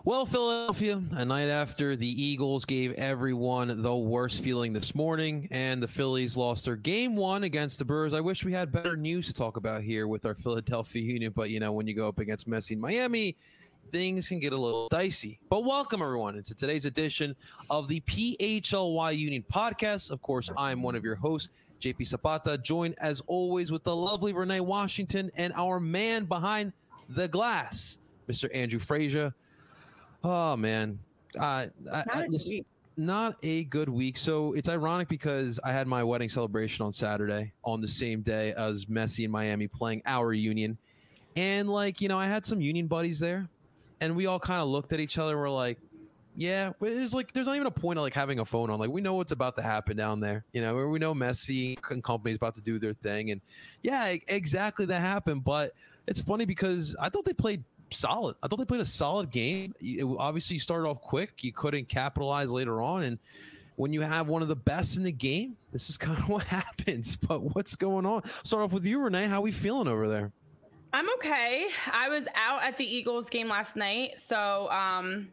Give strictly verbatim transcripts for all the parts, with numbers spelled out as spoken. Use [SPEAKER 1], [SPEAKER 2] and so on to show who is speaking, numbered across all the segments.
[SPEAKER 1] Well, Philadelphia, a night after the Eagles gave everyone the worst feeling this morning, and the Phillies lost their game one against the Brewers. I wish we had better news to talk about here with our Philadelphia Union, but, you know, when you go up against Messi in Miami, things can get a little dicey. But welcome, everyone, into today's edition of the P H L Y Union podcast. Of course, I'm one of your hosts, J P Zapata, joined, as always, with the lovely Renee Washington and our man behind the glass, Mister Andrew Frazier. Oh, man. Uh, I,
[SPEAKER 2] not,
[SPEAKER 1] I,
[SPEAKER 2] a
[SPEAKER 1] listen, not a good week. So it's ironic because I had my wedding celebration on Saturday on the same day as Messi in Miami playing our Union. And, like, you know, I had some Union buddies there, and we all kind of looked at each other and were like, yeah, it's like there's not even a point of like having a phone on. Like, we know what's about to happen down there. You know, we know Messi and company's about to do their thing. And, yeah, exactly that happened. But it's funny because I thought they played solid. I thought they played a solid game. It, obviously, you started off quick. You couldn't capitalize later on. And when you have one of the best in the game, this is kind of what happens. But what's going on? Start off with you, Renee. How are we feeling over there?
[SPEAKER 2] I'm okay. I was out at the Eagles game last night. So, um,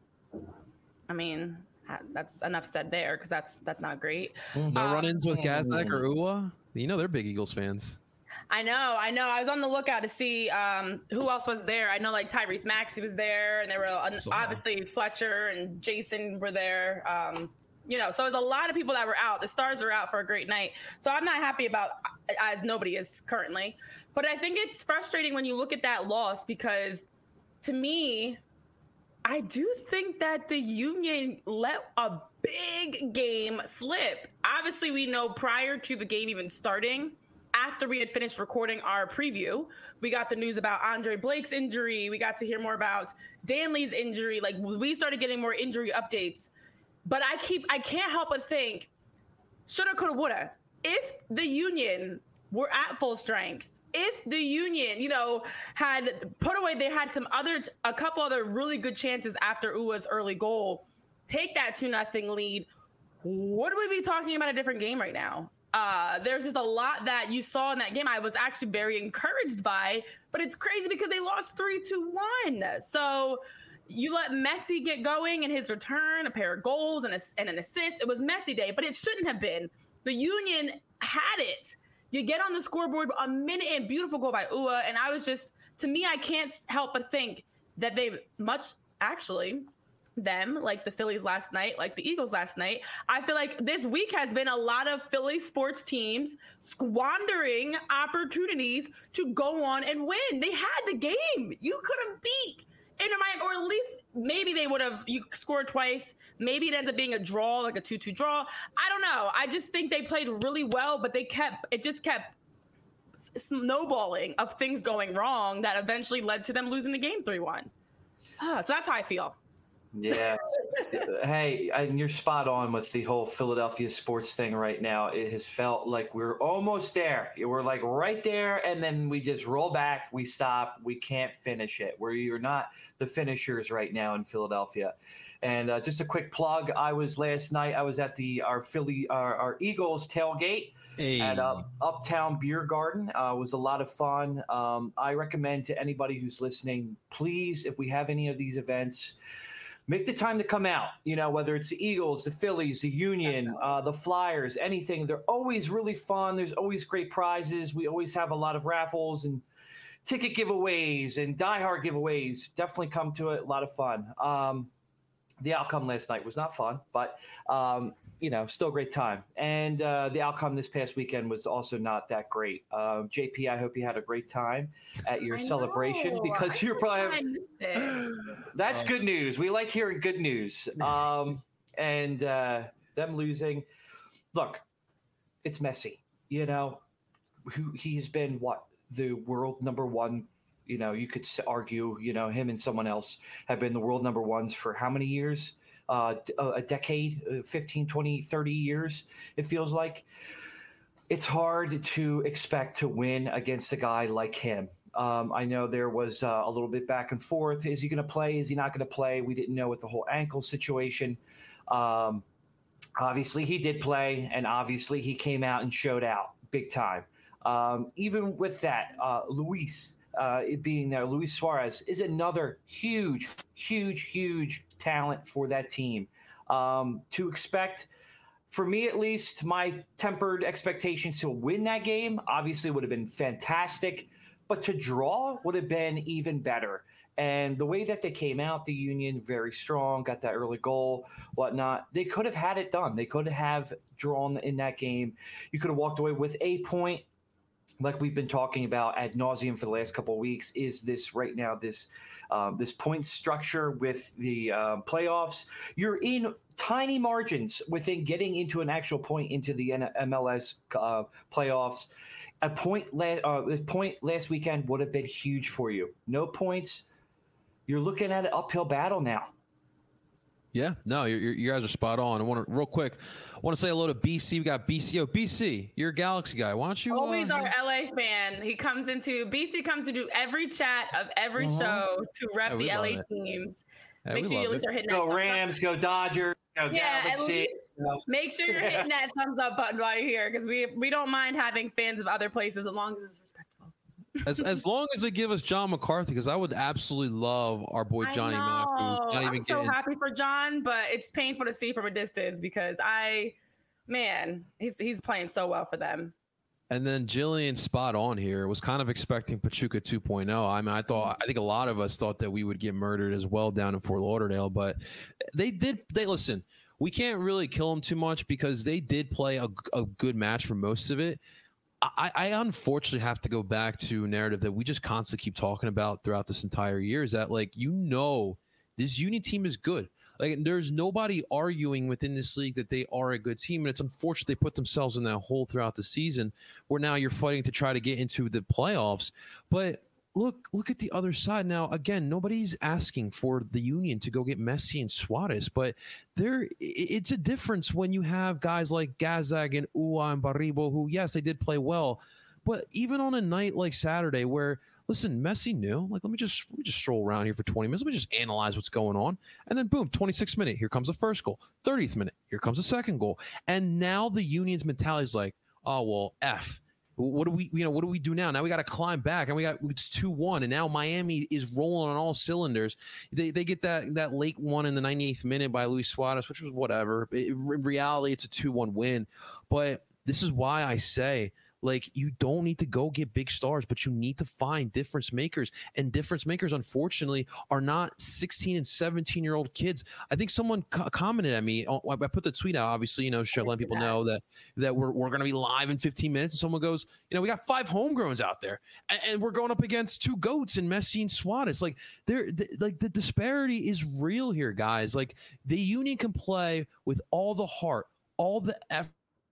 [SPEAKER 2] I mean, that's enough said there because that's that's not great.
[SPEAKER 1] No um, run-ins with Gaznak or Uwa? You know they're big Eagles fans.
[SPEAKER 2] I know, I know. I was on the lookout to see um, who else was there. I know, like, Tyrese Maxey was there, and there were uh, so, obviously Fletcher and Jason were there. Um, you know, so there's a lot of people that were out. The Stars are out for a great night. So I'm not happy about, as nobody is currently. But I think it's frustrating when you look at that loss because, to me, I do think that the Union let a big game slip. Obviously, we know prior to the game even starting, after we had finished recording our preview, we got the news about Andre Blake's injury. We got to hear more about Danley's injury. Like, we started getting more injury updates. But I keep, I can't help but think, shoulda, coulda, woulda. If the Union were at full strength, if the Union, you know, had put away, they had some other, a couple other really good chances after Uwa's early goal, take that two nothing lead, would we be talking about a different game right now? Uh, there's just a lot that you saw in that game I was actually very encouraged by, but it's crazy because they lost three two one. So you let Messi get going in his return, a pair of goals and, a, and an assist. It was Messi day, but it shouldn't have been. The Union had it. You get on the scoreboard, a minute and beautiful goal by Uwa. And I was just, to me, I can't help but think that they much actually them, like the Phillies last night, like the Eagles last night. I feel like this week has been a lot of Philly sports teams squandering opportunities to go on and win. They had the game. You could have beat Inter Miami, or at least maybe they would have you scored twice. Maybe it ends up being a draw, like a two two draw. I don't know. I just think they played really well, but they kept, it just kept snowballing of things going wrong that eventually led to them losing the game three one. Ah, so that's how I feel.
[SPEAKER 3] Yeah. Hey, and you're spot on with the whole Philadelphia sports thing right now. It has felt like we're almost there. We're like right there, and then we just roll back. We stop. We can't finish it. Where you're not the finishers right now in Philadelphia. And uh, just a quick plug. I was last night. I was at the our Philly our, our Eagles tailgate hey. at uh, Uptown Beer Garden. Uh, it was a lot of fun. Um, I recommend to anybody who's listening, please, if we have any of these events, make the time to come out, you know, whether it's the Eagles, the Phillies, the Union, uh, the Flyers, anything. They're always really fun. There's always great prizes. We always have a lot of raffles and ticket giveaways and diehard giveaways. Definitely come to it. A lot of fun. Um, the outcome last night was not fun, but, um, you know, still a great time. And uh, the outcome this past weekend was also not that great. Uh, J P, I hope you had a great time at your
[SPEAKER 2] I
[SPEAKER 3] celebration
[SPEAKER 2] know.
[SPEAKER 3] because
[SPEAKER 2] I
[SPEAKER 3] you're probably – that's good news. We like hearing good news. Um, and uh, them losing – look, it's Messi, you know. Who he has been, what, the world number one. You know, you could argue, you know, him and someone else have been the world number ones for how many years? Uh, a decade, fifteen, twenty, thirty years, it feels like. It's hard to expect to win against a guy like him. Um, I know there was uh, a little bit back and forth. Is he going to play? Is he not going to play? We didn't know with the whole ankle situation. Um, obviously, he did play, and obviously he came out and showed out big time. Um, even with that, uh, Luis uh, it being there. Luis Suarez is another huge, huge, huge talent for that team. Um, to expect, for me at least, my tempered expectations to win that game obviously would have been fantastic, but to draw would have been even better. And the way that they came out, the Union, very strong, got that early goal, whatnot. They could have had it done. They could have drawn in that game. You could have walked away with a point. Like we've been talking about ad nauseum for the last couple of weeks, is this right now, this um, this point structure with the uh, playoffs. You're in tiny margins within getting into an actual point into the M L S uh, playoffs. A point, la- uh, a point last weekend would have been huge for you. No points. You're looking at an uphill battle now.
[SPEAKER 1] Yeah, no, you're, you're, you guys are spot on. I want to real quick. I want to say hello to B C. We got B C. Oh, B C, you're a Galaxy guy. Why don't you?
[SPEAKER 2] Always
[SPEAKER 1] uh,
[SPEAKER 2] our L A fan. He comes into B C comes to do every chat of every
[SPEAKER 1] uh-huh.
[SPEAKER 2] show to rep
[SPEAKER 1] Yeah,
[SPEAKER 2] the L A
[SPEAKER 1] it.
[SPEAKER 2] teams.
[SPEAKER 1] Yeah,
[SPEAKER 2] Make sure you at least are hitting
[SPEAKER 3] go
[SPEAKER 2] that
[SPEAKER 3] Rams, go Dodgers, go
[SPEAKER 2] yeah,
[SPEAKER 3] Galaxy.
[SPEAKER 2] Least, make sure you're hitting that thumbs up button while you're here, because we we don't mind having fans of other places as long as it's respectful.
[SPEAKER 1] as as long as they give us John McCarthy, because I would absolutely love our boy Johnny Mack, who's not even
[SPEAKER 2] I'm so
[SPEAKER 1] getting.
[SPEAKER 2] happy for John, but it's painful to see from a distance because I, man, he's he's playing so well for them.
[SPEAKER 1] And then Jillian, spot on here, was kind of expecting Pachuca two point oh. I mean, I thought, I think a lot of us thought that we would get murdered as well down in Fort Lauderdale, but they did. They listen. We can't really kill them too much because they did play a, a good match for most of it. I, I unfortunately have to go back to a narrative that we just constantly keep talking about throughout this entire year, is that, like, you know, this Union team is good. Like, there's nobody arguing within this league that they are a good team, and it's unfortunate they put themselves in that hole throughout the season where now you're fighting to try to get into the playoffs. But look, look at the other side now. Again, nobody's asking for the Union to go get Messi and Suarez, but there, it's a difference when you have guys like Gazag and Ua and Baribo, who, yes, they did play well, but even on a night like Saturday where, listen, Messi knew, like, let me just let me just stroll around here for twenty minutes. Let me just analyze what's going on. And then, boom, twenty-sixth minute, here comes the first goal. thirtieth minute, here comes the second goal. And now the Union's mentality is like, oh, well, F. What do we, you know, what do we do now? Now we got to climb back, and we got it's two one, and now Miami is rolling on all cylinders. They they get that that late one in the ninety-eighth minute by Luis Suarez, which was whatever. It, in reality, it's a two one win. But this is why I say, like, you don't need to go get big stars, but you need to find difference makers. And difference makers, unfortunately, are not sixteen and seventeen-year-old kids. I think someone co- commented at me. I put the tweet out, obviously, you know, letting people know that that we're, we're going to be live in fifteen minutes. And someone goes, you know, we got five homegrowns out there, and, and we're going up against two GOATs in Messi and Suarez. Like, they're, they, like the disparity is real here, guys. Like, the Union can play with all the heart, all the effort.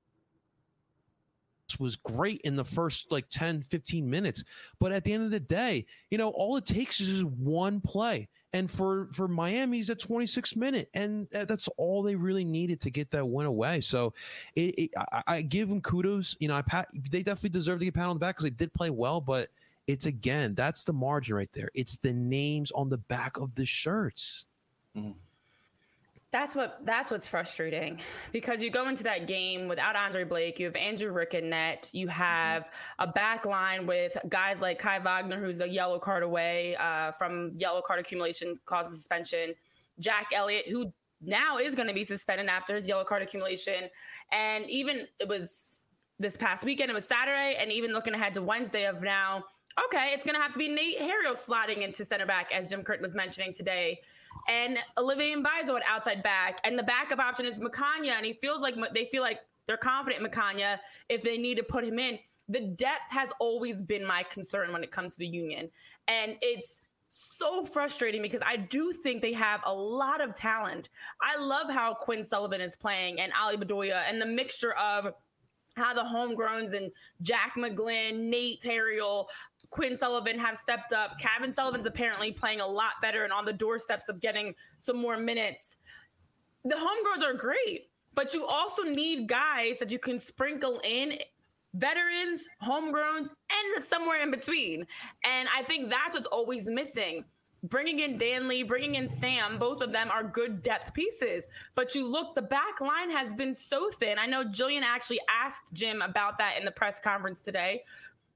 [SPEAKER 1] Was great in the first like ten, fifteen minutes, but at the end of the day, you know, all it takes is just one play, and for for Miami's at twenty-sixth minute, and that's all they really needed to get that win away. So it, it, I, I give them kudos. You know, I pat, they definitely deserve to get pat on the back because they did play well, but it's, again, that's the margin right there. It's the names on the back of the shirts.
[SPEAKER 3] Mm.
[SPEAKER 2] That's what that's what's frustrating, because you go into that game without Andre Blake, you have Andrew Rick in net, you have a back line with guys like Kai Wagner, who's a yellow card away uh, from yellow card accumulation causing suspension, Jack Elliott, who now is going to be suspended after his yellow card accumulation, and even it was this past weekend, it was Saturday, and even looking ahead to Wednesday of now, okay, it's going to have to be Nate Harriel slotting into center back, as Jim Curtin was mentioning today. And Olivier Mbaizo at outside back, and the backup option is Makanya, and he feels like they feel like they're confident in Makanya if they need to put him in. The depth has always been my concern when it comes to the Union, and it's so frustrating because I do think they have a lot of talent. I love how Quinn Sullivan is playing and Ali Bedoya, and the mixture of how the homegrowns and Jack McGlynn, Nate Terriel, Quinn Sullivan have stepped up. Kevin Sullivan's apparently playing a lot better and on the doorsteps of getting some more minutes. The homegrowns are great, but you also need guys that you can sprinkle in, veterans, homegrowns, and somewhere in between. And I think that's what's always missing. Bringing in Danley, bringing in Sam, both of them are good depth pieces. But you look, the back line has been so thin. I know Jillian actually asked Jim about that in the press conference today.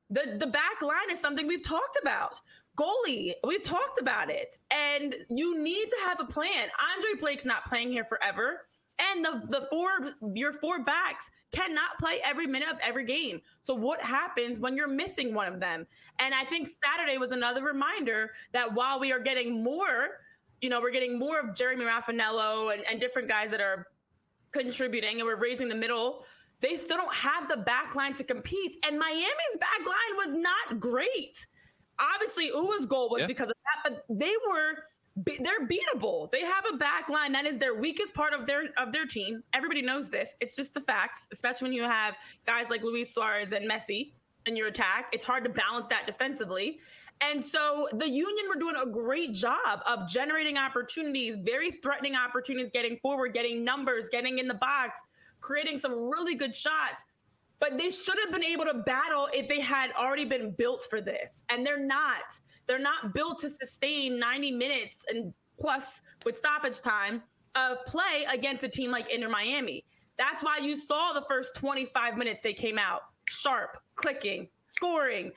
[SPEAKER 2] The the back line is something we've talked about. Goalie, we've talked about it. And you need to have a plan. Andre Blake's not playing here forever. And the, the four, your four backs cannot play every minute of every game. So what happens when you're missing one of them? And I think Saturday was another reminder that while we are getting more, you know, we're getting more of Jeremy Raffanello and, and different guys that are contributing, and we're raising the middle, they still don't have the back line to compete. And Miami's back line was not great. Obviously, Uwa's goal was yeah. because of that, but they were they're beatable. They have a back line that is their weakest part of their of their team. Everybody knows this. It's just the facts, especially when you have guys like Luis Suarez and Messi in your attack. It's hard to balance that defensively. And so the Union were doing a great job of generating opportunities, very threatening opportunities, getting forward, getting numbers, getting in the box, creating some really good shots. But they should have been able to battle if they had already been built for this. And they're not. They're not built to sustain ninety minutes and plus with stoppage time of play against a team like Inter Miami. That's why you saw the first twenty-five minutes they came out sharp, clicking, scoring.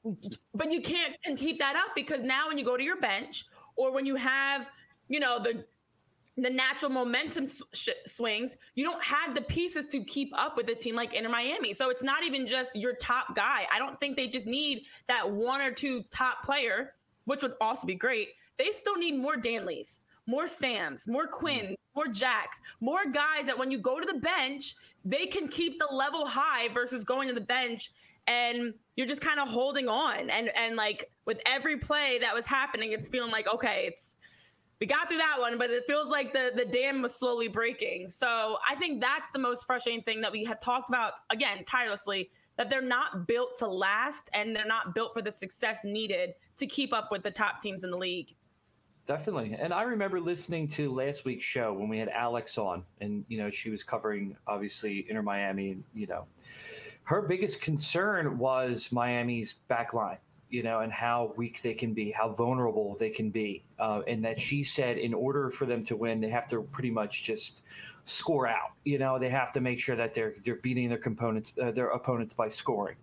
[SPEAKER 2] But you can't can keep that up because now when you go to your bench or when you have, you know, the the natural momentum sh- swings, you don't have the pieces to keep up with a team like Inter Miami. So it's not even just your top guy. I don't think they just need that one or two top player, which would also be great. They still need more Danleys, more Sams, more Quinn, more Jacks, more guys that when you go to the bench, they can keep the level high versus going to the bench and you're just kind of holding on. And, and like with every play that was happening, it's feeling like, okay, it's, we got through that one, but it feels like the, the dam was slowly breaking. So I think that's the most frustrating thing that we have talked about, again, tirelessly, that they're not built to last and they're not built for the success needed to keep up with the top teams in the league.
[SPEAKER 3] Definitely. And I remember listening to last week's show when we had Alex on and, you know, she was covering, obviously, Inter Miami. And, you know, her biggest concern was Miami's back line. You know, and how weak they can be, how vulnerable they can be. Uh, and that she said in order for them to win, they have to pretty much just score out. You know, they have to make sure that they're they're beating their components, uh, their opponents by scoring.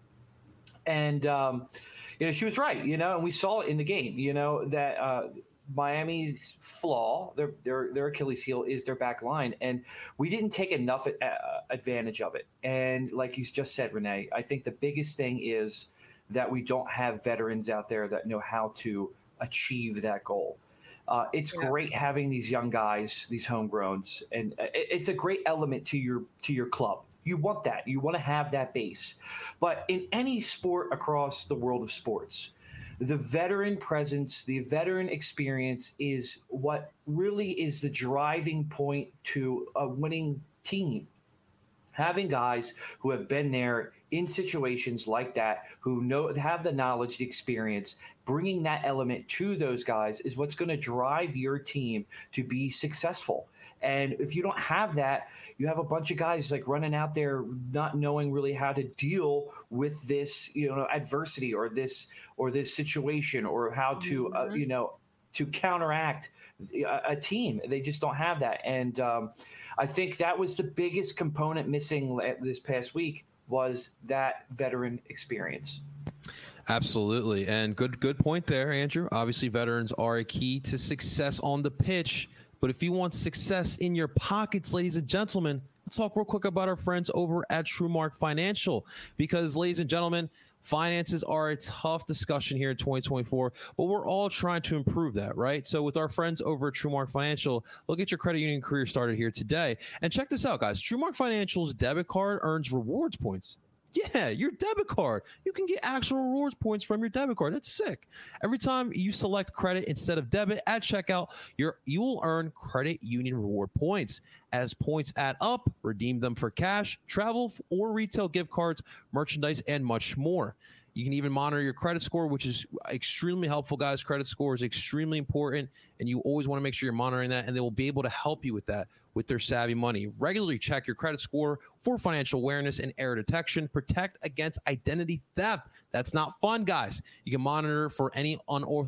[SPEAKER 3] And, um, you know, she was right, you know, and we saw it in the game, you know, that uh, Miami's flaw, their, their, their Achilles heel is their back line. And we didn't take enough uh, advantage of it. And like you just said, Renee, I think the biggest thing is that we don't have veterans out there that know how to achieve that goal. Uh, it's yeah. great having these young guys, these homegrowns, and it, it's a great element to your to your club. You want that. You want to have that base. But in any sport across the world of sports, the veteran presence, the veteran experience is what really is the driving point to a winning team. Having guys who have been there in situations like that, who know have the knowledge, the experience, bringing that element to those guys is what's going to drive your team to be successful. And if you don't have that, you have a bunch of guys like running out there not knowing really how to deal with this, you know, adversity or this or this situation or how to, mm-hmm. uh, you know, to counteract a, a team. They just don't have that. And um, I think that was the biggest component missing this past week was that veteran experience.
[SPEAKER 1] Absolutely. And good, good point there, Andrew. Obviously, veterans are a key to success on the pitch. But if you want success in your pockets, ladies and gentlemen, let's talk real quick about our friends over at TrueMark Financial. Because, ladies and gentlemen, finances are a tough discussion here in twenty twenty-four, but we're all trying to improve that, right? So with our friends over at TrueMark Financial, look at your credit union career started here today. And check this out, guys. TrueMark Financial's debit card earns rewards points. Yeah, your debit card. You can get actual rewards points from your debit card. That's sick. Every time you select credit instead of debit at checkout, you're, you will earn credit union reward points. As points add up, redeem them for cash, travel, or retail gift cards, merchandise, and much more. You can even monitor your credit score, which is extremely helpful, guys. Credit score is extremely important, and you always want to make sure you're monitoring that, and they will be able to help you with that with their Savvy Money. Regularly check your credit score for financial awareness and error detection. Protect against identity theft. That's not fun, guys. You can monitor for any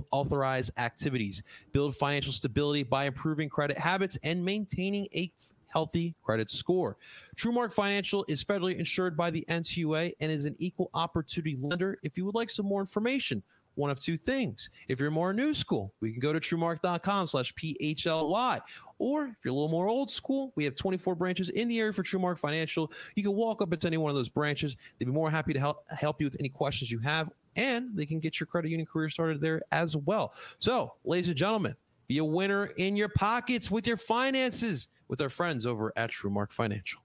[SPEAKER 1] unauthorized activities. Build financial stability by improving credit habits and maintaining a healthy credit score. TrueMark Financial is federally insured by the N C U A and is an equal opportunity lender. If you would like some more information, one of two things. If you're more new school, we can go to truemark.com slash PHLY. Or if you're a little more old school, we have twenty-four branches in the area for TrueMark Financial. You can walk up into any one of those branches. They'd be more happy to help help you with any questions you have, and they can get your credit union career started there as well. So, ladies and gentlemen, be a winner in your pockets with your finances with our friends over at TrueMark Financial.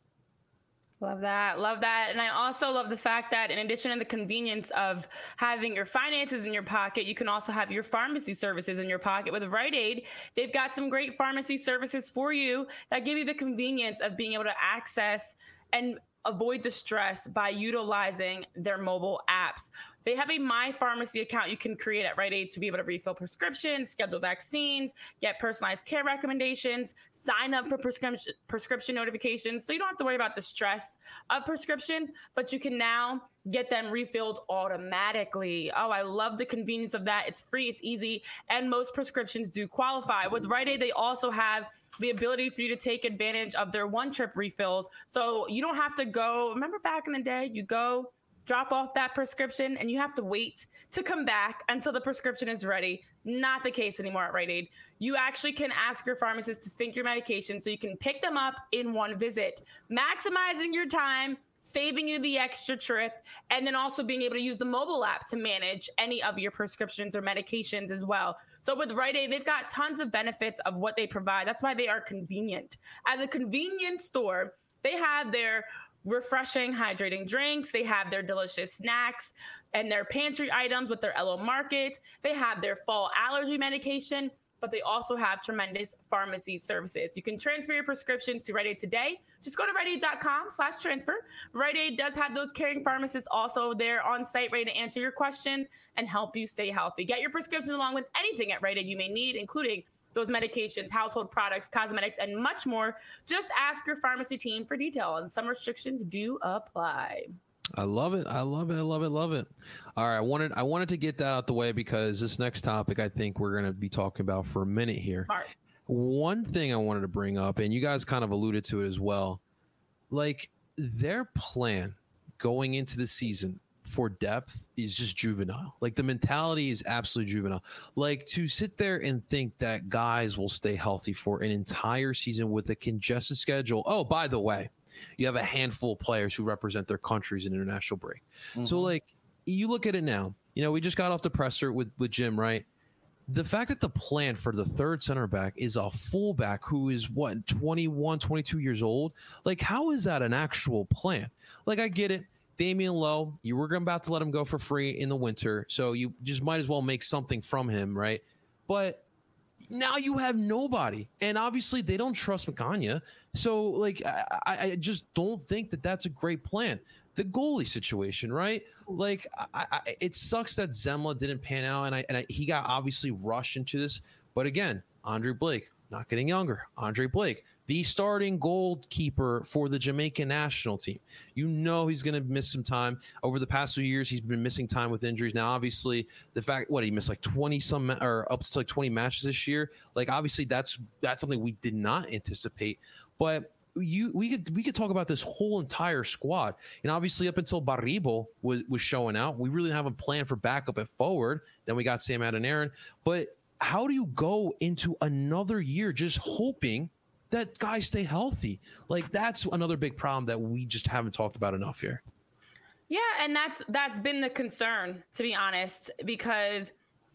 [SPEAKER 2] Love that. Love that. And I also love the fact that in addition to the convenience of having your finances in your pocket, you can also have your pharmacy services in your pocket. With Rite Aid, they've got some great pharmacy services for you that give you the convenience of being able to access and avoid the stress by utilizing their mobile apps. They have a My Pharmacy account you can create at Rite Aid to be able to refill prescriptions, schedule vaccines, get personalized care recommendations, sign up for prescription prescription notifications. So you don't have to worry about the stress of prescriptions, but you can now get them refilled automatically. Oh, I love the convenience of that. It's free, it's easy, and most prescriptions do qualify. With Rite Aid, they also have the ability for you to take advantage of their one-trip refills. So you don't have to go. Remember back in the day, you go drop off that prescription and you have to wait to come back until the prescription is ready. Not the case anymore at Rite Aid. You actually can ask your pharmacist to sync your medication so you can pick them up in one visit, maximizing your time, saving you the extra trip, and then also being able to use the mobile app to manage any of your prescriptions or medications as well. So with Rite Aid, they've got tons of benefits of what they provide. That's why they are convenient. As a convenience store, they have their refreshing, hydrating drinks. They have their delicious snacks and their pantry items with their L O Market. They have their fall allergy medication, but they also have tremendous pharmacy services. You can transfer your prescriptions to Rite Aid today. Just go to rite aid dot com slash transfer. Rite Aid does have those caring pharmacists also there on site ready to answer your questions and help you stay healthy. Get your prescriptions along with anything at Rite Aid you may need, including those medications, household products, cosmetics, and much more. Just ask your pharmacy team for detail, and some restrictions do apply.
[SPEAKER 1] I love it. I love it. I love it. Love it. All right. I wanted I wanted to get that out the way because this next topic I think we're going to be talking about for a minute here.
[SPEAKER 2] Smart.
[SPEAKER 1] One thing I wanted to bring up, and you guys kind of alluded to it as well, like their plan going into the season for depth is just juvenile. Like the mentality is absolutely juvenile. Like to sit there and think that guys will stay healthy for an entire season with a congested schedule. Oh, by the way, you have a handful of players who represent their countries in international break. Mm-hmm. So like you look at it now, you know, we just got off the presser with, with Jim, right? The fact that the plan for the third center back is a fullback who is what, twenty-one, twenty-two years old. Like, how is that an actual plan? Like, I get it. Damian Lowe, you were about to let him go for free in the winter, so you just might as well make something from him, right? But now you have nobody, and obviously they don't trust Magana. So, like, I, I just don't think that that's a great plan. The goalie situation, right? Like, I, I, it sucks that Zemla didn't pan out, and I and I, he got obviously rushed into this. But again, Andre Blake, not getting younger. Andre Blake, the starting goalkeeper for the Jamaican national team. You know he's going to miss some time. Over the past few years, he's been missing time with injuries. Now, obviously, the fact, what, he missed like twenty some, or up to like twenty matches this year. Like, obviously, that's that's something we did not anticipate. But you we could we could talk about this whole entire squad. And obviously, up until Baribo was, was showing out, we really didn't have a plan for backup at forward. Then we got Sam Adeniran. But how do you go into another year just hoping that guys stay healthy? Like, that's another big problem that we just haven't talked about enough here.
[SPEAKER 2] Yeah, and that's that's been the concern, to be honest, because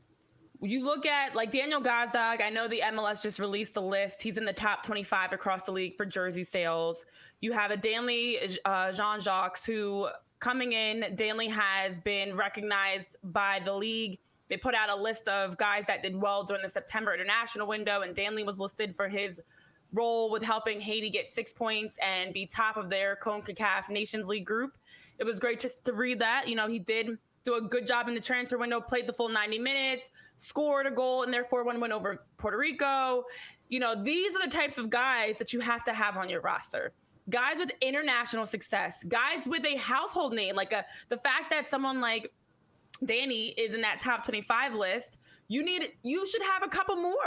[SPEAKER 2] you look at like Daniel Gazdag. I know the M L S just released a list. He's in the top twenty-five across the league for jersey sales. You have a Danley uh, Jean-Jacques who coming in. Danley has been recognized by the league. They put out a list of guys that did well during the September international window, and Danley was listed for his role with helping Haiti get six points and be top of their CONCACAF Nations League group. It was great just to read that. You know, he did do a good job in the transfer window, played the full ninety minutes, scored a goal in their four one win over Puerto Rico. You know, these are the types of guys that you have to have on your roster. Guys with international success, guys with a household name, like a, the fact that someone like Danny is in that top twenty-five list, you need, you should have a couple more,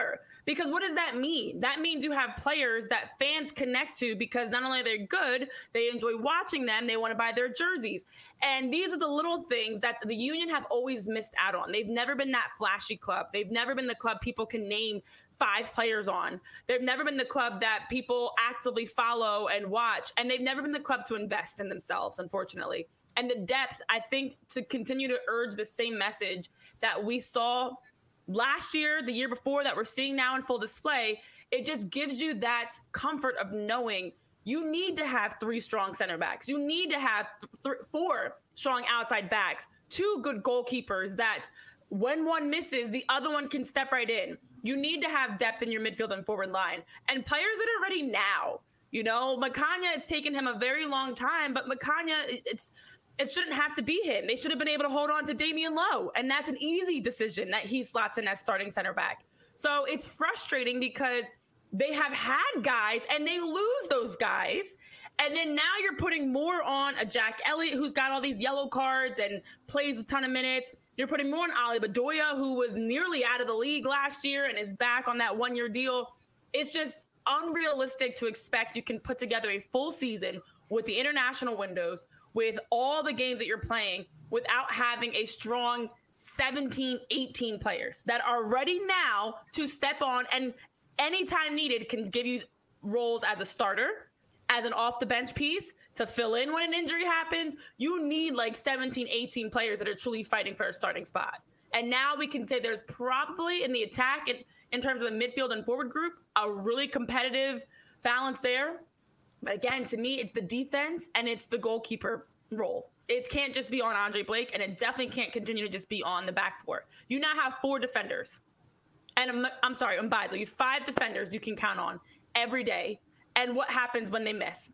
[SPEAKER 2] Because what does that mean? That means you have players that fans connect to because not only are they good, they enjoy watching them, they want to buy their jerseys. And these are the little things that the Union have always missed out on. They've never been that flashy club. They've never been the club people can name five players on. They've never been the club that people actively follow and watch. And they've never been the club to invest in themselves, unfortunately. And the depth, I think, to continue to urge the same message that we saw last year, the year before, that we're seeing now in full display, it just gives you that comfort of knowing you need to have three strong center backs. You need to have th- th- four strong outside backs, two good goalkeepers that when one misses, the other one can step right in. You need to have depth in your midfield and forward line and players that are ready now. You know, Makanya, it's taken him a very long time, but Makanya, it's it shouldn't have to be him. They should have been able to hold on to Damian Lowe, and that's an easy decision that he slots in as starting center back. So it's frustrating because they have had guys and they lose those guys. And then now you're putting more on a Jack Elliott who's got all these yellow cards and plays a ton of minutes. You're putting more on Ali Bedoya, who was nearly out of the league last year and is back on that one-year deal. It's just unrealistic to expect you can put together a full season with the international windows, with all the games that you're playing, without having a strong seventeen, eighteen players that are ready now to step on and anytime needed can give you roles as a starter, as an off the bench piece to fill in when an injury happens. You need like seventeen, eighteen players that are truly fighting for a starting spot. And now we can say there's probably in the attack and in terms of the midfield and forward group, a really competitive balance there. But again, to me, it's the defense and it's the goalkeeper role. It can't just be on Andre Blake, and it definitely can't continue to just be on the back four. You now have four defenders. And I'm, I'm sorry, I'm biased. You have five defenders you can count on every day. And what happens when they miss?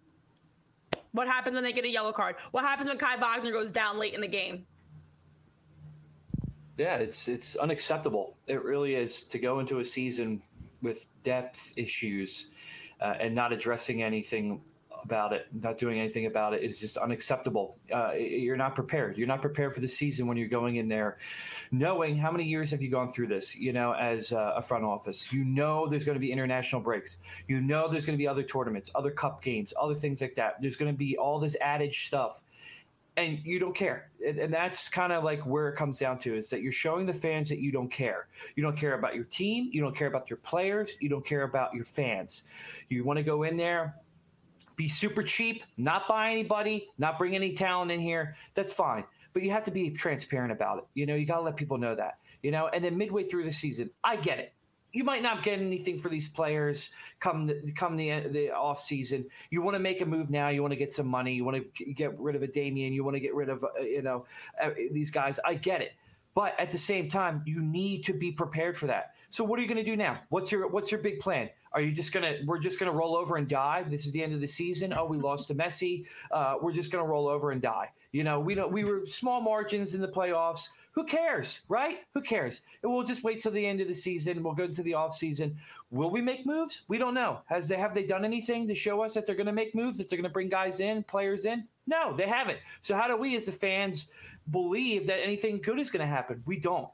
[SPEAKER 2] What happens when they get a yellow card? What happens when Kai Wagner goes down late in the game?
[SPEAKER 3] Yeah, it's it's unacceptable. It really is, to go into a season with depth issues uh, and not addressing anything about it, not doing anything about it is just unacceptable. Uh, you're not prepared. You're not prepared for the season when you're going in there knowing how many years have you gone through this, you know, as a front office. You know there's going to be international breaks. You know there's going to be other tournaments, other cup games, other things like that. There's going to be all this added stuff. And you don't care. And, and that's kind of like where it comes down to, is that you're showing the fans that you don't care. You don't care about your team. You don't care about your players. You don't care about your fans. You want to go in there, be super cheap, not buy anybody, not bring any talent in here. That's fine. But you have to be transparent about it. You know, you got to let people know that, you know, and then midway through the season, I get it. You might not get anything for these players come the, come the the off season. You want to make a move now. You want to get some money. You want to get rid of a Damian. You want to get rid of, uh, you know, uh, these guys. I get it. But at the same time, you need to be prepared for that. So what are you going to do now? What's your what's your big plan? Are you just going to, we're just going to roll over and die? This is the end of the season. Oh, we lost to Messi. Uh, we're just going to roll over and die. You know, we don't, we were small margins in the playoffs. Who cares, right? Who cares? And we'll just wait till the end of the season. We'll go into the off season. Will we make moves? We don't know. Has they, have they done anything to show us that they're going to make moves, that they're going to bring guys in, players in? No, they haven't. So how do we as the fans believe that anything good is going to happen? We don't.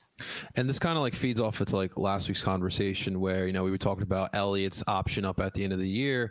[SPEAKER 1] And this kind of like feeds off into like last week's conversation where, you know, we were talking about Elliott's option up at the end of the year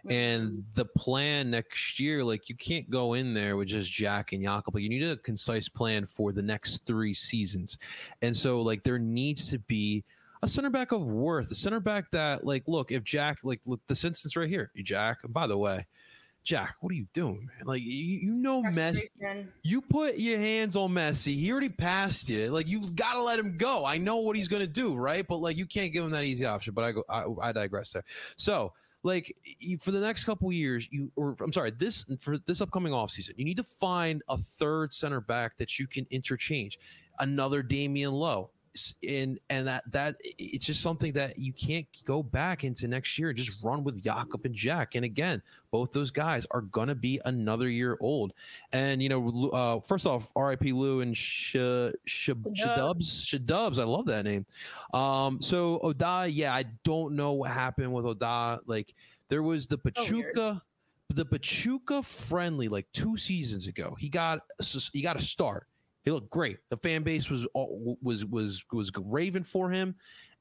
[SPEAKER 1] and the plan next year. Like, you can't go in there with just Jack and Jakob, but you need a concise plan for the next three seasons. And so like there needs to be a center back of worth, a center back that, like, look, if Jack, like, look, this instance right here, Jack, and by the way, Jack, what are you doing, man? Like, you, you know, Messi. You put your hands on Messi. He already passed you. Like, you got to let him go. I know what he's going to do, right? But, like, you can't give him that easy option. But I go, I, I digress there. So, like, you, for the next couple of years, you, or I'm sorry, this for this upcoming offseason, you need to find a third center back that you can interchange. Another Damian Lowe. And and that that it's just something that you can't go back into next year and just run with Jakob and Jack. And again, both those guys are gonna be another year old. And you know, uh, first off, R I P Lou and Sh- Sh- Shadubs, Shadubs. I love that name. Um, so Oda, yeah, I don't know what happened with Oda. Like, there was the Pachuca. Oh, the Pachuca friendly like two seasons ago. He got he got a start. He looked great. The fan base was was was was raving for him,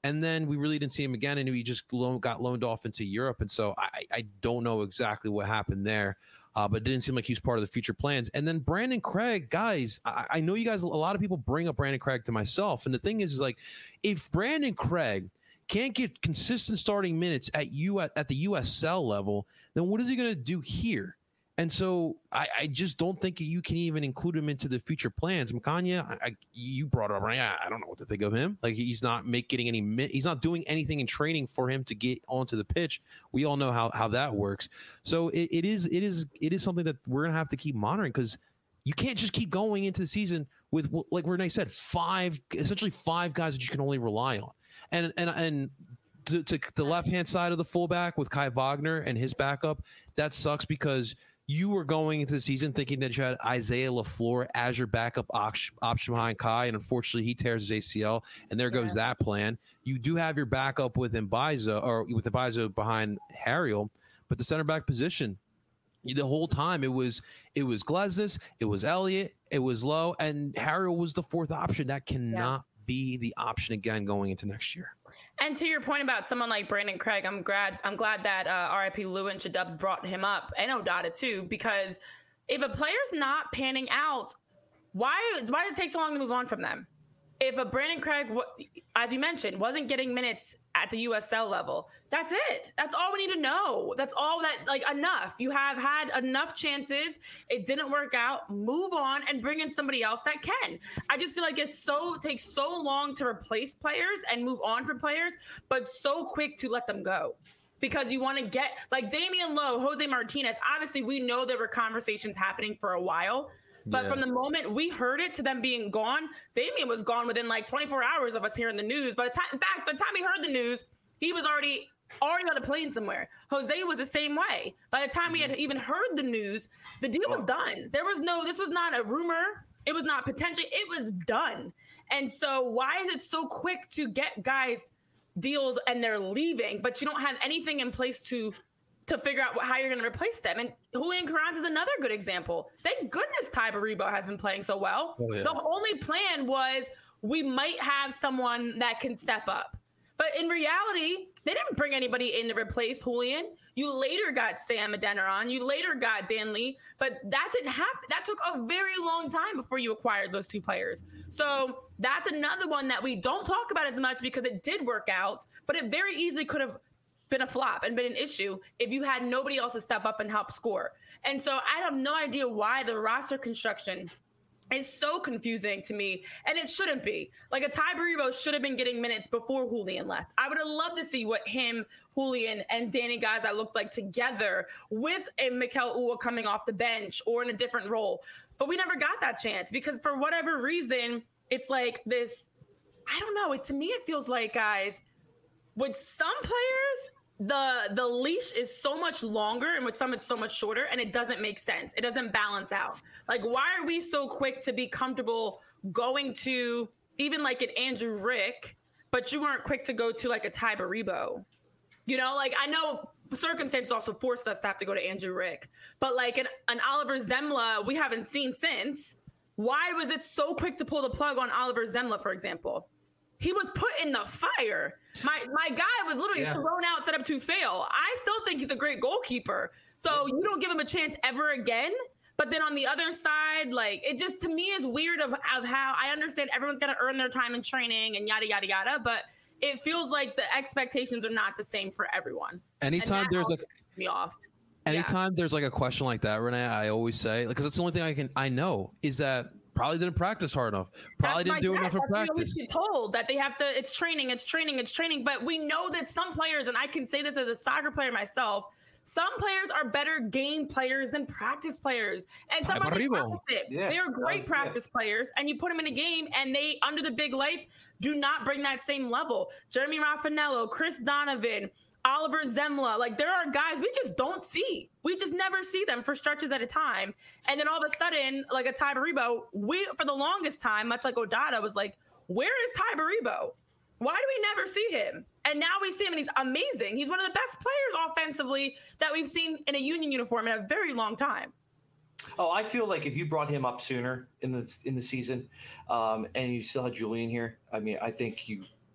[SPEAKER 1] And then we really didn't see him again, and he just loan, got loaned off into Europe. And so I, I don't know exactly what happened there, uh, but it didn't seem like he was part of the future plans. And then Brandon Craig, guys, I, I know you guys, a lot of people bring up Brandon Craig to myself. And the thing is, is like, if Brandon Craig can't get consistent starting minutes at you at, at the U S L level, then what is he going to do here? And so I, I just don't think you can even include him into the future plans. Makanya, I, I, you brought it up, right? I, I don't know what to think of him. Like, he's not make, getting any, he's not doing anything in training for him to get onto the pitch. We all know how, how that works. So it, it is it is it is something that we're gonna have to keep monitoring, because you can't just keep going into the season with, like Renee said, five essentially five guys that you can only rely on. And and and to, to the left-hand side of the fullback with Kai Wagner and his backup, that sucks, because you were going into the season thinking that you had Isaiah LaFleur as your backup option behind Kai, and unfortunately he tears his A C L, and there goes yeah. that plan. You do have your backup with Mbaizo, or with Mbaizo behind Harriel, but the center back position, the whole time it was it was Glesnes, it was Elliott, it was Lowe, and Harriel was the fourth option. That cannot yeah. be the option again going into next year.
[SPEAKER 2] And to your point about someone like Brandon Craig, I'm glad I'm glad that uh, R I P Lewin Shadubs brought him up, and Odata too, because if a player's not panning out, why why does it take so long to move on from them? If a Brandon Craig, as you mentioned, wasn't getting minutes at the U S L level, that's it. That's all we need to know. That's all that, like, enough. You have had enough chances. It didn't work out. Move on and bring in somebody else that can. I just feel like it's so, takes so long to replace players and move on from players, but so quick to let them go. Because you want to get, like Damian Lowe, Jose Martinez, obviously we know there were conversations happening for a while. But yeah. from the moment we heard it to them being gone, Damian was gone within like twenty-four hours of us hearing the news. By the time, in fact, by the time he heard the news, he was already already on a plane somewhere. Jose was the same way. By the time we had even heard the news, the deal was done. There was no, this was not a rumor. It was not potential. It was done. And so why is it so quick to get guys deals and they're leaving, but you don't have anything in place to to figure out how you're going to replace them? And Julian Carranza is another good example. Thank goodness Ty Baribo has been playing so well. Oh, yeah. The only plan was we might have someone that can step up. But in reality, they didn't bring anybody in to replace Julian. You later got Sam Adeniran. You later got Dan Lee. But that didn't happen. That took a very long time before you acquired those two players. So that's another one that we don't talk about as much because it did work out, but it very easily could have been a flop and been an issue if you had nobody else to step up and help score. And so I have no idea why the roster construction is so confusing to me, and it shouldn't be. Like, a Ty Baribo should have been getting minutes before Julian left. I would have loved to see what him, Julian, and Danny Gaza looked like together with a Mikel Uwa coming off the bench or in a different role. But we never got that chance because for whatever reason, it's like this, I don't know, it, to me it feels like, guys, with some players, the the leash is so much longer, and with some it's so much shorter, and it doesn't make sense. It doesn't balance out. Like, why are we so quick to be comfortable going to even like an Andrew Rick, but you weren't quick to go to like a Ty Baribo? You know, like, I know circumstances also forced us to have to go to Andrew Rick, but like an, an Oliver Zemla we haven't seen since. Why was it so quick to pull the plug on Oliver Zemla, for example? He was put in the fire. My my guy was literally yeah. thrown out, set up to fail. I still think he's a great goalkeeper. So you don't give him a chance ever again. But then on the other side, like, it just, to me, is weird of, of how I understand everyone's got to earn their time in training and yada, yada, yada. But it feels like the expectations are not the same for everyone.
[SPEAKER 1] Anytime there's like
[SPEAKER 2] me off.
[SPEAKER 1] Anytime
[SPEAKER 2] yeah.
[SPEAKER 1] there's like a question like that, Renee, I always say, because it's the only thing I can I know is that probably didn't practice hard enough. Probably
[SPEAKER 2] That's
[SPEAKER 1] didn't do
[SPEAKER 2] guess.
[SPEAKER 1] enough in
[SPEAKER 2] That's
[SPEAKER 1] practice.
[SPEAKER 2] We told that they have to. It's training. It's training. It's training. But we know that some players, and I can say this as a soccer player myself, some players are better game players than practice players. And some are yeah, they are great practice yeah. players, and you put them in a game, and they, under the big lights, do not bring that same level. Jeremy Raffanello, Chris Donovan, Oliver Zemla, like, there are guys we just don't see. We just never see them for stretches at a time. And then all of a sudden, like a Ty Baribo, we, for the longest time, much like Odata, was like, where is Ty Baribo? Why do we never see him? And now we see him, and he's amazing. He's one of the best players offensively that we've seen in a Union uniform in a very long time.
[SPEAKER 3] Oh, I feel like if you brought him up sooner in the in the season, um, and you still had Julian here, I mean, I think you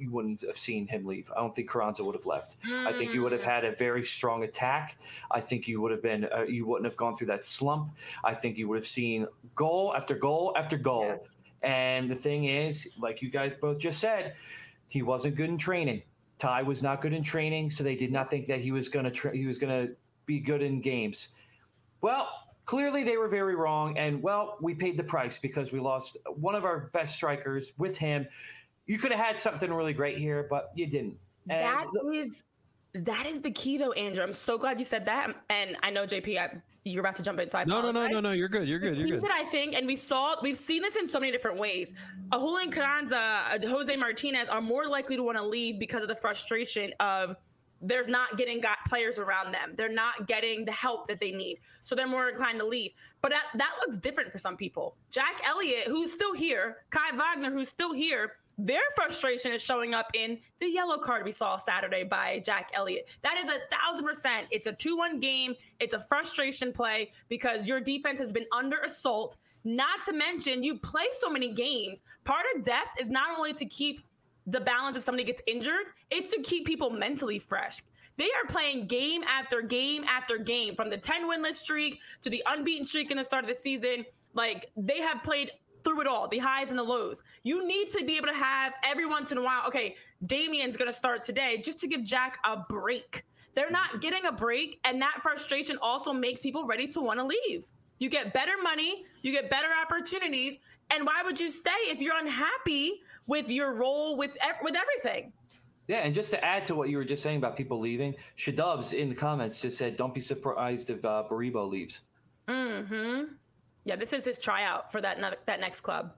[SPEAKER 3] you wouldn't have seen him leave. I don't think Carranza would have left. Mm. I think you would have had a very strong attack. I think you would have been uh, you wouldn't have gone through that slump. I think you would have seen goal after goal after goal. Yeah. And the thing is, like you guys both just said, he wasn't good in training. Ty was not good in training, so they did not think that he was going to tra- he was going to be good in games. Well, clearly they were very wrong, and well, we paid the price because we lost one of our best strikers with him. You could have had something really great here, but you didn't. And
[SPEAKER 2] that is that is the key, though, Andrew. I'm so glad you said that. And I know, J P, I, you're about to jump in. So I
[SPEAKER 1] no, no, no, no, no. You're good. You're good. You're good.
[SPEAKER 2] That I think, and we saw, we've seen this in so many different ways. A Julian Carranza, a Jose Martinez are more likely to want to leave because of the frustration of there's not getting got players around them. They're not getting the help that they need. So they're more inclined to leave. But that, that looks different for some people. Jack Elliott, who's still here, Kai Wagner, who's still here, their frustration is showing up in the yellow card we saw Saturday by Jack Elliott. That is a thousand percent. It's a two one game. It's a frustration play because your defense has been under assault. Not to mention you play so many games. Part of depth is not only to keep the balance if somebody gets injured, it's to keep people mentally fresh. They are playing game after game after game, from the ten winless streak to the unbeaten streak in the start of the season. Like, they have played through it all, the highs and the lows. You need to be able to have every once in a while, okay, Damian's going to start today, just to give Jack a break. They're not getting a break, and that frustration also makes people ready to want to leave. You get better money, you get better opportunities, and why would you stay if you're unhappy with your role with with everything?
[SPEAKER 3] Yeah, and just to add to what you were just saying about people leaving, Shadubs in the comments just said, don't be surprised if uh, Baribo leaves.
[SPEAKER 2] Mm-hmm. Yeah, this is his tryout for that ne- that next club.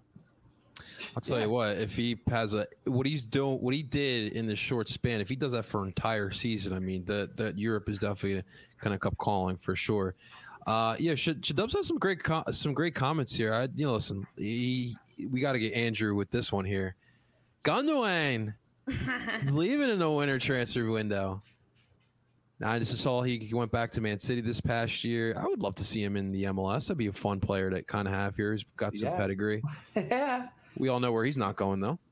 [SPEAKER 1] I'll tell yeah. you what, if he has a what he's doing, what he did in this short span, if he does that for an entire season, I mean, that that Europe is definitely kind of kept calling for sure. Uh, yeah, Shadubs has some great com- some great comments here. I, you know, listen, he, we got to get Andrew with this one here. Gundogan is leaving in the winter transfer window. Now, I just saw he went back to Man City this past year. I would love to see him in the M L S. That'd be a fun player to kind of have here. He's got some
[SPEAKER 3] yeah.
[SPEAKER 1] pedigree.
[SPEAKER 3] Yeah.
[SPEAKER 1] We all know where he's not going, though.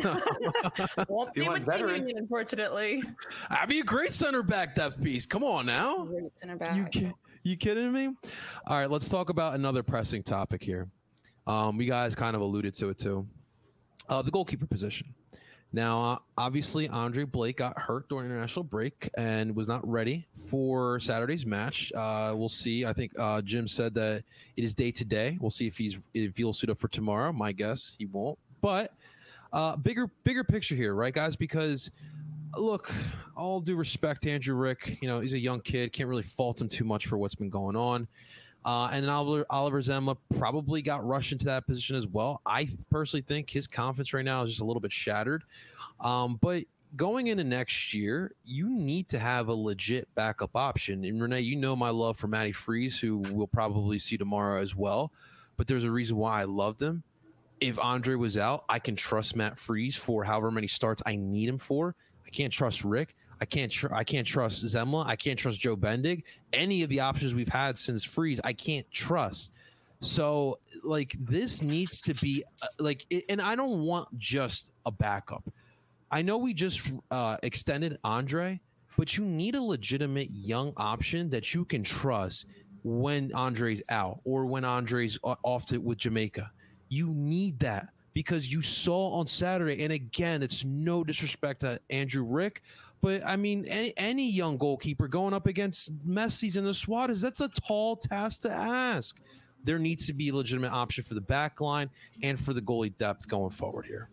[SPEAKER 2] Won't be with the Union, unfortunately.
[SPEAKER 1] That'd be a great center back depth piece. Come on now.
[SPEAKER 2] Great center back.
[SPEAKER 1] You, ki- you kidding me? All right, let's talk about another pressing topic here. Um, we guys kind of alluded to it, too. Uh, the goalkeeper position. Now, uh, obviously, Andre Blake got hurt during international break and was not ready for Saturday's match. Uh, we'll see. I think uh, Jim said that it is day to day. We'll see if he's if he'll suit up for tomorrow. My guess, he won't. But uh, bigger bigger picture here, right, guys? Because look, all due respect to Andrew Rick, you know, he's a young kid. Can't really fault him too much for what's been going on. Uh, and then Oliver, Oliver Zemla probably got rushed into that position as well. I personally think his confidence right now is just a little bit shattered. Um, but going into next year, you need to have a legit backup option. And Renee, you know my love for Matty Freeze, who we'll probably see tomorrow as well. But there's a reason why I loved him. If Andre was out, I can trust Matt Freeze for however many starts I need him for. I can't trust Rick. I can't tr- I can't trust Zemla. I can't trust Joe Bendig. Any of the options we've had since Freeze, I can't trust. So, like, this needs to be uh, like, it, and I don't want just a backup. I know we just uh, extended Andre, but you need a legitimate young option that you can trust when Andre's out or when Andre's off to with Jamaica. You need that because you saw on Saturday, and again, it's no disrespect to Andrew Rick, but I mean, any, any young goalkeeper going up against Messi's and the Suarez, that's a tall task to ask. There needs to be a legitimate option for the back line and for the goalie depth going forward here.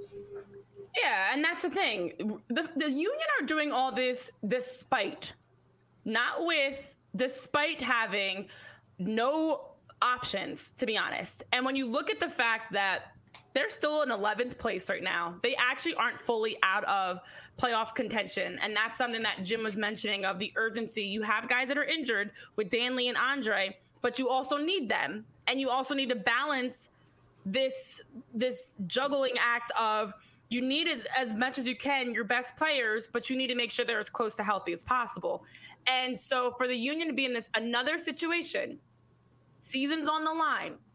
[SPEAKER 2] Yeah, and that's the thing. The, the Union are doing all this despite, not with, despite having no options, to be honest. And when you look at the fact that they're still in eleventh place right now, they actually aren't fully out of playoff contention. And that's something that Jim was mentioning of the urgency. You have guys that are injured with Danley and Andre, but you also need them. And you also need to balance this, this juggling act of you need as, as much as you can your best players, but you need to make sure they're as close to healthy as possible. And so for the Union to be in this another situation, season's on the line,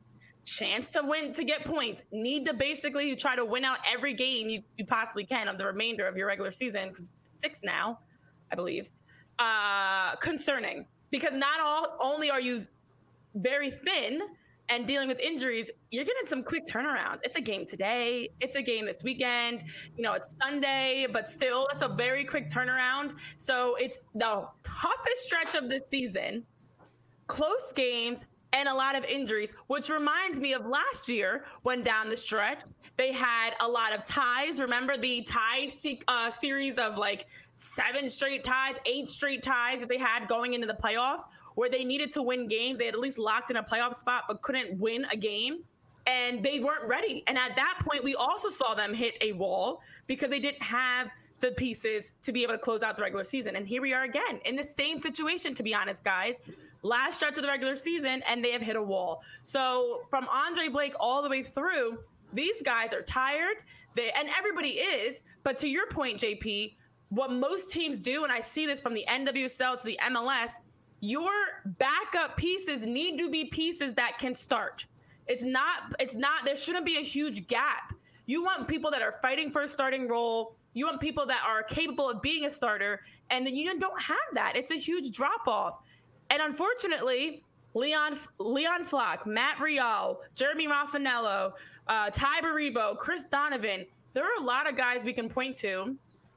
[SPEAKER 2] chance to win, to get points, need to basically try to win out every game you, you possibly can of the remainder of your regular season, because six now, I believe, uh, concerning. Because not all only are you very thin and dealing with injuries, you're getting some quick turnarounds. It's a game today. It's a game this weekend. You know, it's Sunday, but still, it's a very quick turnaround. So it's the toughest stretch of the season, close games, and a lot of injuries, which reminds me of last year when down the stretch, they had a lot of ties. Remember the tie se- uh, series of like seven straight ties, eight straight ties that they had going into the playoffs, where they needed to win games. They had at least locked in a playoff spot, but couldn't win a game. And they weren't ready. And at that point, we also saw them hit a wall because they didn't have the pieces to be able to close out the regular season. And here we are again in the same situation, to be honest, guys. Last stretch of the regular season, and they have hit a wall. So from Andre Blake all the way through, these guys are tired. They, and everybody is. But to your point, J P, what most teams do, and I see this from the N W S L to the M L S, your backup pieces need to be pieces that can start. It's not, it's not, there shouldn't be a huge gap. You want people that are fighting for a starting role. You want people that are capable of being a starter. And then you don't have that. It's a huge drop off. And unfortunately, Leon Leon Flock, Matt Rial, Jeremy Raffanello, uh, Ty Baribo, Chris Donovan, there are a lot of guys we can point to.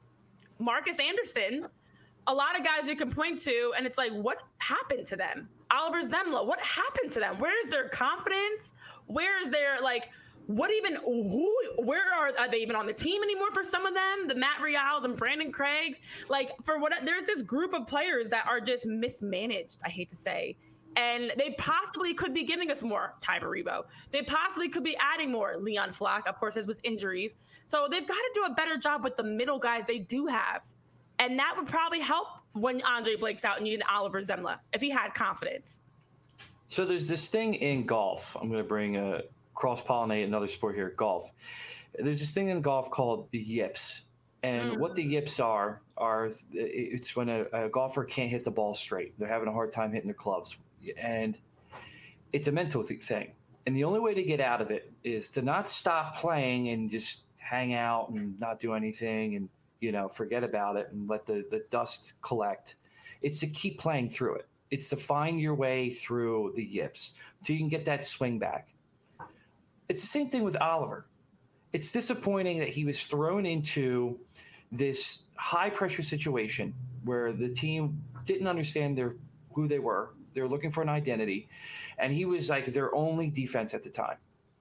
[SPEAKER 2] Marcus Anderson, a lot of guys you can point to, and it's like, what happened to them? Oliver Zemla, what happened to them? Where is their confidence? Where is their, like, what even, who, where are, are they even on the team anymore for some of them? The Matt Rials and Brandon Craigs, like, for what, there's this group of players that are just mismanaged, I hate to say. And they possibly could be giving us more, Ty Baribo. They possibly could be adding more, Leon Flock, of course, as with injuries. So they've got to do a better job with the middle guys they do have. And that would probably help when Andre Blake's out and you need Oliver Zemla, if he had confidence.
[SPEAKER 3] So there's this thing in golf. I'm going to bring a cross-pollinate another sport here, golf. There's this thing in golf called the yips. And mm. what the yips are, are it's when a, a golfer can't hit the ball straight. They're having a hard time hitting their clubs. And it's a mental thing. And the only way to get out of it is to not stop playing and just hang out and not do anything and, you know, forget about it and let the, the dust collect. It's to keep playing through it. It's to find your way through the yips so you can get that swing back. It's the same thing with Oliver. It's disappointing that he was thrown into this high-pressure situation where the team didn't understand their who they were. They were looking for an identity, and he was like their only defense at the time.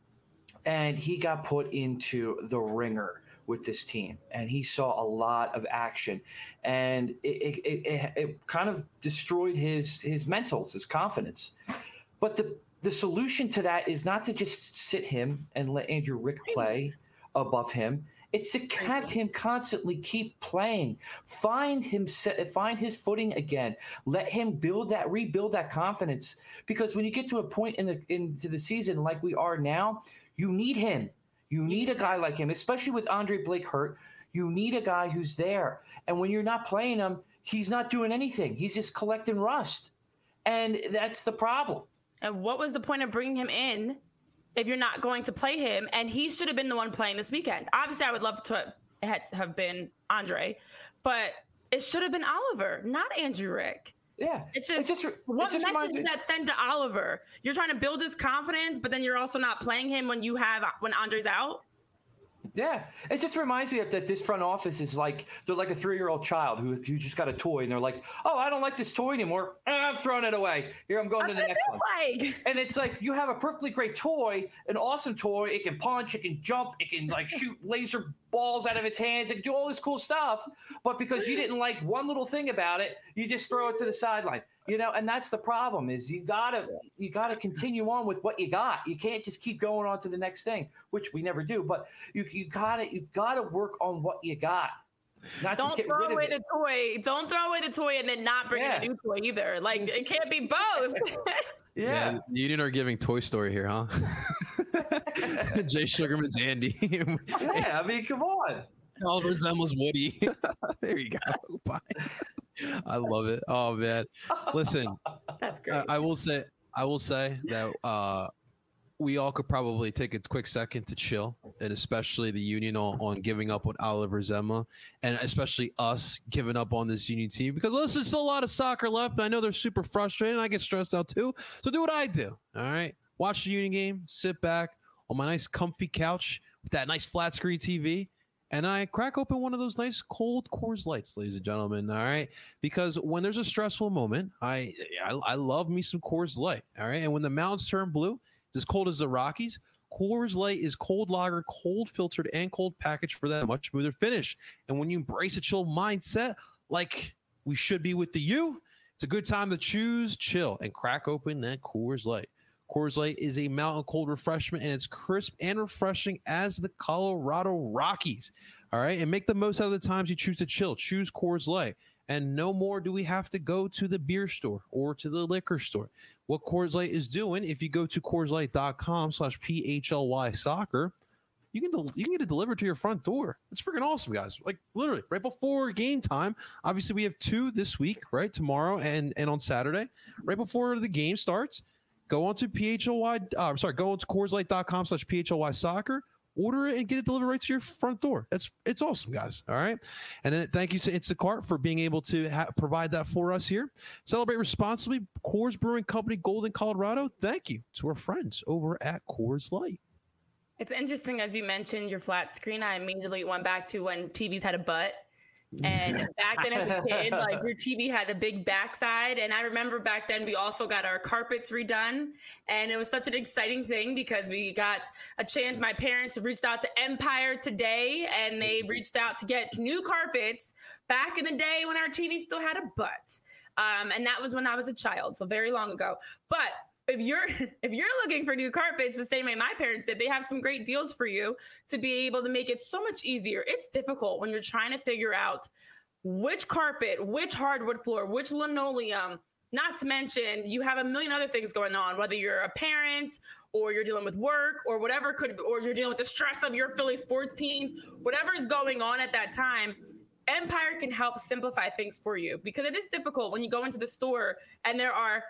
[SPEAKER 3] And he got put into the ringer with this team, and he saw a lot of action, and it, it, it, it kind of destroyed his his mentals, his confidence. But the the solution to that is not to just sit him and let Andrew Rick play above him. It's to have him constantly keep playing, find him, find his footing again. Let him build that, rebuild that confidence. Because when you get to a point in the into the season like we are now, you need him. You need a guy like him, especially with Andre Blake hurt. You need a guy who's there. And when you're not playing him, he's not doing anything. He's just collecting rust, and that's the problem.
[SPEAKER 2] And what was the point of bringing him in if you're not going to play him? And he should have been the one playing this weekend. Obviously, I would love to have, to have been Andre, but it should have been Oliver, not Andrew Rick.
[SPEAKER 3] Yeah.
[SPEAKER 2] It's just,
[SPEAKER 3] it just
[SPEAKER 2] what
[SPEAKER 3] it just
[SPEAKER 2] message is that sent to Oliver? You're trying to build his confidence, but then you're also not playing him when you have when Andre's out?
[SPEAKER 3] Yeah, it just reminds me of that this front office is like, they're like a three-year-old child who, who just got a toy, and they're like, oh, I don't like this toy anymore. I'm throwing it away. Here, I'm going
[SPEAKER 2] That's
[SPEAKER 3] to the next one.
[SPEAKER 2] Like.
[SPEAKER 3] And it's like, you have a perfectly great toy, an awesome toy. It can punch, it can jump, it can like shoot laser balls out of its hands, it can do all this cool stuff. But because you didn't like one little thing about it, you just throw it to the sideline. You know, and that's the problem is you gotta you gotta continue on with what you got. You can't just keep going on to the next thing, which we never do. But you you gotta you gotta work on what you got. Not
[SPEAKER 2] Don't
[SPEAKER 3] just get
[SPEAKER 2] throw
[SPEAKER 3] rid
[SPEAKER 2] away
[SPEAKER 3] of
[SPEAKER 2] the toy. Don't throw away the toy and then not bring
[SPEAKER 3] yeah.
[SPEAKER 2] in a new toy either. Like it can't be both.
[SPEAKER 3] yeah.
[SPEAKER 1] yeah, Union are giving Toy Story here, huh? Jay Sugarman's Andy.
[SPEAKER 3] yeah, I mean, come on.
[SPEAKER 1] Oliver Zemla's Woody. There you go. Bye. I love it. Oh man, listen.
[SPEAKER 2] That's great.
[SPEAKER 1] I, I will say, I will say that uh, we all could probably take a quick second to chill, and especially the Union on, on giving up on Oliver Zemla, and especially us giving up on this Union team, because listen, there's still a lot of soccer left, and I know they're super frustrated, and I get stressed out too. So do what I do, all right? Watch the Union game, sit back on my nice comfy couch with that nice flat screen T V, and I crack open one of those nice cold Coors Lights, ladies and gentlemen, all right? Because when there's a stressful moment, I I, I love me some Coors Light, all right? And when the mountains turn blue, it's as cold as the Rockies, Coors Light is cold lager, cold filtered, and cold packaged for that much smoother finish. And when you embrace a chill mindset, like we should be with the U, it's a good time to choose chill and crack open that Coors Light. Coors Light is a mountain cold refreshment, and it's crisp and refreshing as the Colorado Rockies. All right, and make the most out of the times you choose to chill. Choose Coors Light. And no more do we have to go to the beer store or to the liquor store. What Coors Light is doing, if you go to CoorsLight.com slash PHLY soccer, you can del- you can get it delivered to your front door. It's freaking awesome, guys. Like literally right before game time. Obviously, we have two this week, right? Tomorrow and, and on Saturday. Right before the game starts, go on to P H L Y. Uh, I'm sorry, go on to CoorsLight.com slash PHLY soccer. Order it and get it delivered right to your front door. That's it's awesome, guys. All right. And then thank you to Instacart for being able to ha- provide that for us here. Celebrate responsibly. Coors Brewing Company, Golden, Colorado. Thank you to our friends over at Coors Light.
[SPEAKER 2] It's interesting, as you mentioned, your flat screen. I immediately went back to when T Vs had a butt. And back then as a kid, like your T V had a big backside. And I remember back then we also got our carpets redone. And it was such an exciting thing because we got a chance. My parents reached out to Empire Today, and they reached out to get new carpets back in the day when our T V still had a butt. Um, and that was when I was a child, so very long ago. But if you're if you're looking for new carpets, the same way my parents did, they have some great deals for you to be able to make it so much easier. It's difficult when you're trying to figure out which carpet, which hardwood floor, which linoleum, not to mention you have a million other things going on, whether you're a parent or you're dealing with work or whatever could, or you're dealing with the stress of your Philly sports teams, whatever is going on at that time. Empire can help simplify things for you because it is difficult when you go into the store and there are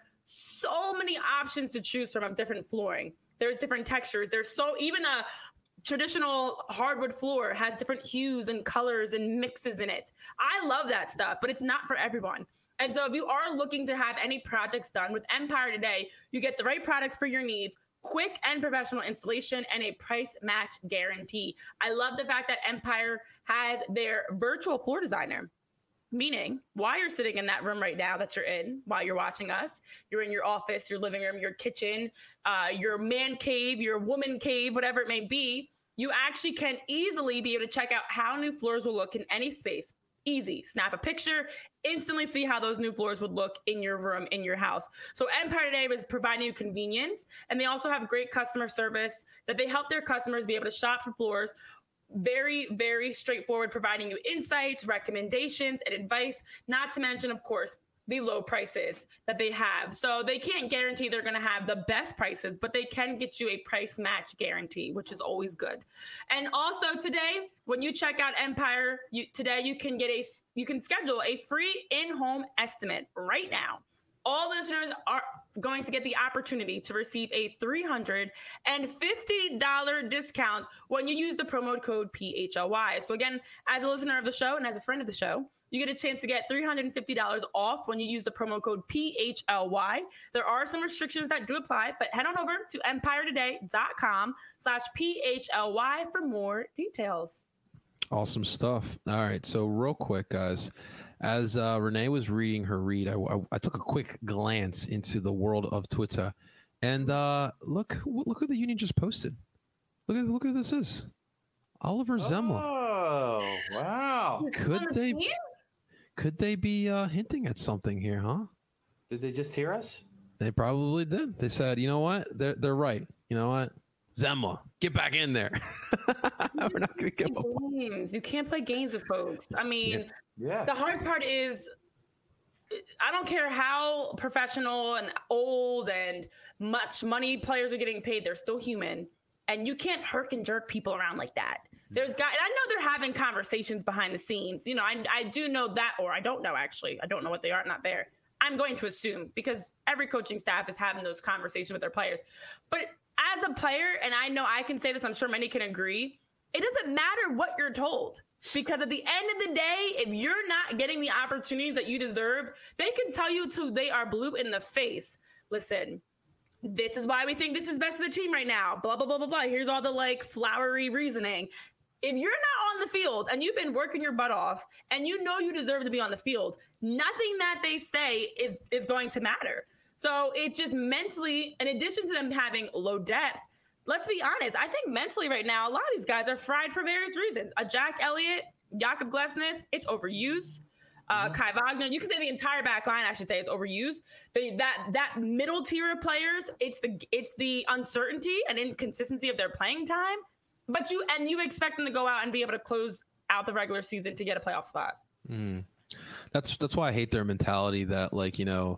[SPEAKER 2] so many options to choose from of different flooring. There's different textures. There's so even a traditional hardwood floor has different hues and colors and mixes in it. I love that stuff, but it's not for everyone. And so if you are looking to have any projects done with Empire Today, you get the right products for your needs, quick and professional installation, and a price match guarantee. I love the fact that Empire has their virtual floor designer. Meaning, while you're sitting in that room right now that you're in, while you're watching us, you're in your office, your living room, your kitchen, uh, your man cave, your woman cave, whatever it may be, you actually can easily be able to check out how new floors will look in any space. Easy. Snap a picture, instantly see how those new floors would look in your room, in your house. So Empire Today is providing you convenience, and they also have great customer service that they help their customers be able to shop for floors. Very, very straightforward, providing you insights, recommendations, and advice, not to mention, of course, the low prices that they have. So they can't guarantee they're going to have the best prices, but they can get you a price match guarantee, which is always good. And also today, when you check out Empire, you, today you can get a, you can schedule a free in-home estimate right now. All listeners are going to get the opportunity to receive a three hundred fifty dollars discount when you use the promo code P H L Y. So again, as a listener of the show and as a friend of the show, you get a chance to get three hundred fifty dollars off when you use the promo code P H L Y. There are some restrictions that do apply, but head on over to empiretoday.com slash PHLY for more details.
[SPEAKER 1] Awesome stuff. All right. So real quick, guys, as uh, Renee was reading her read, I, I, I took a quick glance into the world of Twitter, and uh, look, look who the Union just posted. Look at look who this is, Oliver Zemla.
[SPEAKER 3] Oh, wow!
[SPEAKER 1] Could they could they be uh, hinting at something here, huh?
[SPEAKER 3] Did they just hear us?
[SPEAKER 1] They probably did. They said, you know what? They're they're right. You know what? Zemla, get back in there. We're not going to give up.
[SPEAKER 2] Games. You can't play games with folks. I mean,
[SPEAKER 3] yeah.
[SPEAKER 2] The hard part is, I don't care how professional and old and much money players are getting paid, they're still human. And you can't herk and jerk people around like that. There's guys, I know they're having conversations behind the scenes. You know, I, I do know that, or I don't know, actually. I don't know what they are, not there. I'm going to assume because every coaching staff is having those conversations with their players. But as a player, and I know I can say this, I'm sure many can agree, it doesn't matter what you're told. Because at the end of the day, if you're not getting the opportunities that you deserve, they can tell you till they are blue in the face. Listen, this is why we think this is best for the team right now. Blah, blah, blah, blah, blah. Here's all the like flowery reasoning. If you're not on the field and you've been working your butt off and you know you deserve to be on the field, nothing that they say is, is going to matter. So it just mentally, in addition to them having low depth, let's be honest, I think mentally right now, a lot of these guys are fried for various reasons. A Jack Elliott, Jakob Glesnes, it's overused. Uh, mm-hmm. Kai Wagner, you can say the entire back line, I should say, is overused. The, that that middle tier of players, it's the it's the uncertainty and inconsistency of their playing time. But you and you expect them to go out and be able to close out the regular season to get a playoff spot.
[SPEAKER 1] Mm. That's that's why I hate their mentality that, like, you know,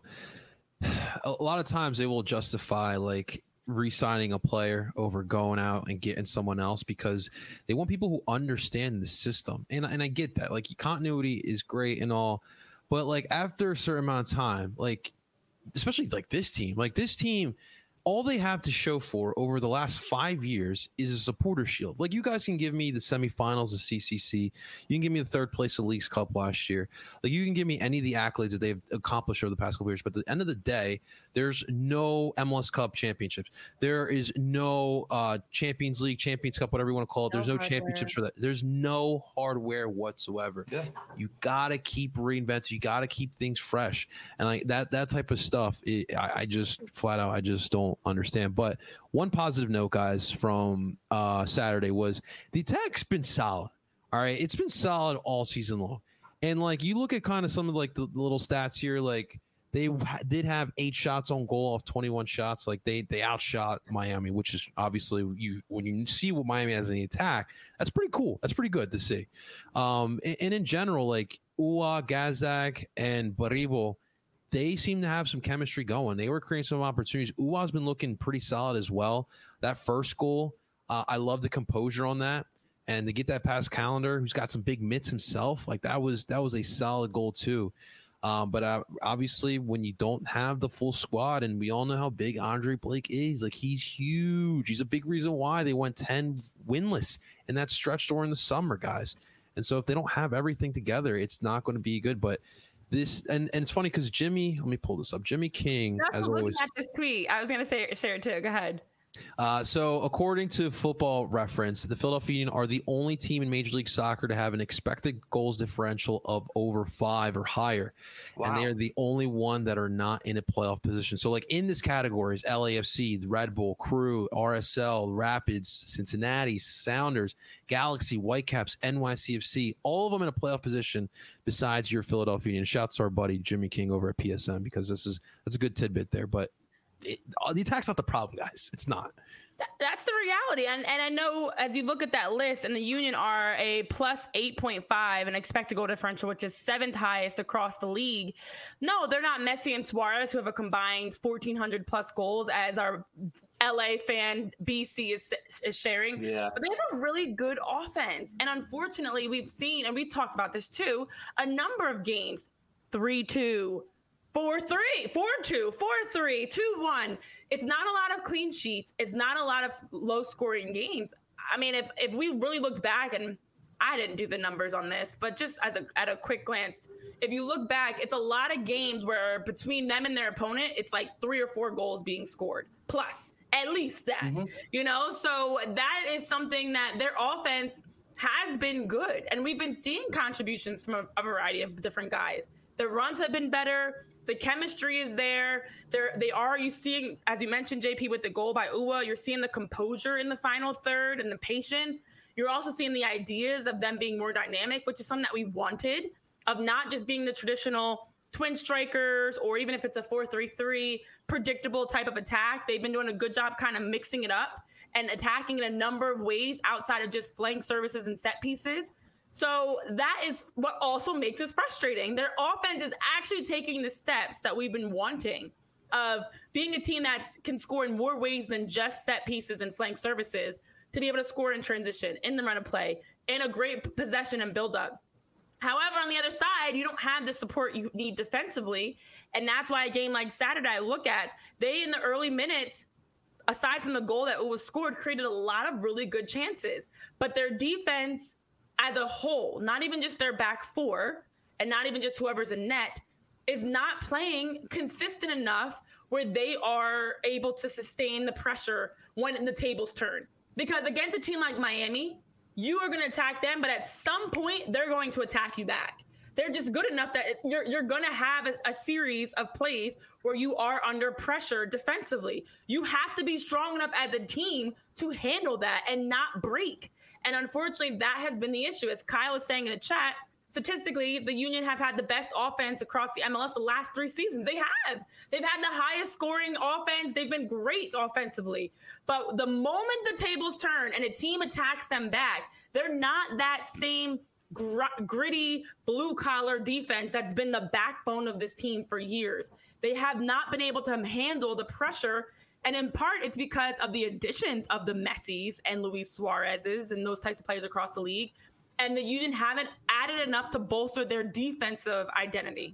[SPEAKER 1] a lot of times they will justify like re-signing a player over going out and getting someone else because they want people who understand the system. And, and I get that. Like, continuity is great and all, but like after a certain amount of time, like especially like this team, like this team, all they have to show for over the last five years is a supporter shield. Like, you guys can give me the semifinals of C C C. You can give me the third place of Leagues Cup last year. Like, you can give me any of the accolades that they've accomplished over the past couple years. But at the end of the day, there's no M L S Cup championships. There is no uh, Champions League, Champions Cup, whatever you want to call it. There's no, no championships for that. There's no hardware whatsoever. Yeah. You got to keep reinventing. You got to keep things fresh. And like that, that type of stuff, it, I, I just flat out, I just don't understand. But one positive note, guys, from uh Saturday was the attack's been solid. All right, it's been solid all season long. And like, you look at kind of some of like the little stats here, like they did have eight shots on goal off twenty-one shots. Like they they outshot Miami, which is obviously, you when you see what Miami has in the attack, that's pretty cool. That's pretty good to see. Um and, and in general, like Uhre, Gazdag, and Baribo, they seem to have some chemistry going. They were creating some opportunities. Uhre's been looking pretty solid as well. That first goal, uh, I love the composure on that. And to get that past Calendar, who's got some big mitts himself, like that was that was a solid goal too. Um, but uh, obviously, when you don't have the full squad, and we all know how big Andre Blake is, like he's huge. He's a big reason why they went ten winless in that stretch during the summer, guys. And so if they don't have everything together, it's not going to be good. But This and, and it's funny because Jimmy, let me pull this up. Jimmy King,
[SPEAKER 2] That's
[SPEAKER 1] as always.
[SPEAKER 2] At this tweet, I was gonna say share it too. Go ahead.
[SPEAKER 1] Uh, so according to Football Reference, the Philadelphia Union are the only team in Major League Soccer to have an expected goals differential of over five or higher. Wow. And they are the only one that are not in a playoff position. So like in this category is L A F C, Red Bull, Crew, R S L, Rapids, Cincinnati, Sounders, Galaxy, Whitecaps, N Y C F C, all of them in a playoff position besides your Philadelphia Union. Shouts to our buddy Jimmy King over at P S N, because this is that's a good tidbit there. But It, the attack's not the problem, guys. It's not.
[SPEAKER 2] That, that's the reality. And and I know as you look at that list, and the Union are a plus eight point five and expected goal differential, which is seventh highest across the league. No, they're not Messi and Suarez, who have a combined fourteen hundred plus goals, as our L A fan B C is, is sharing.
[SPEAKER 3] Yeah.
[SPEAKER 2] But they have a really good offense. And unfortunately, we've seen, and we've talked about this too, a number of games, three two, Four three, four two, four three, two one. It's not a lot of clean sheets. It's not a lot of low scoring games. I mean, if if we really looked back, and I didn't do the numbers on this, but just as a at a quick glance, if you look back, it's a lot of games where between them and their opponent, it's like three or four goals being scored, plus at least that. Mm-hmm. You know, so that is something that their offense has been good, and we've been seeing contributions from a, a variety of different guys. The runs have been better. The chemistry is there. They're, they are, you seeing, as you mentioned, J P, with the goal by Uhre, you're seeing the composure in the final third and the patience. You're also seeing the ideas of them being more dynamic, which is something that we wanted, of not just being the traditional twin strikers, or even if it's a four three three, predictable type of attack. They've been doing a good job kind of mixing it up and attacking in a number of ways outside of just flank services and set pieces. So that is what also makes us frustrating. Their offense is actually taking the steps that we've been wanting, of being a team that can score in more ways than just set pieces and flank services, to be able to score in transition, in the run of play, in a great possession and build up. However, on the other side, you don't have the support you need defensively. And that's why a game like Saturday I look at, they in the early minutes aside from the goal that was scored, created a lot of really good chances. But their defense as a whole, not even just their back four and not even just whoever's in net, is not playing consistent enough where they are able to sustain the pressure when the tables turn. Because against a team like Miami, you are going to attack them, but at some point, they're going to attack you back. They're just good enough that you're you're going to have a, a series of plays where you are under pressure defensively. You have to be strong enough as a team to handle that and not break. And unfortunately, that has been the issue. As Kyle is saying in the chat, statistically, the Union have had the best offense across the M L S the last three seasons. They have. They've had the highest scoring offense. They've been great offensively. But the moment the tables turn and a team attacks them back, they're not that same gr- gritty blue-collar defense that's been the backbone of this team for years. They have not been able to handle the pressure. And in part, it's because of the additions of the Messis and Luis Suarez's and those types of players across the league. And the Union haven't added enough to bolster their defensive identity.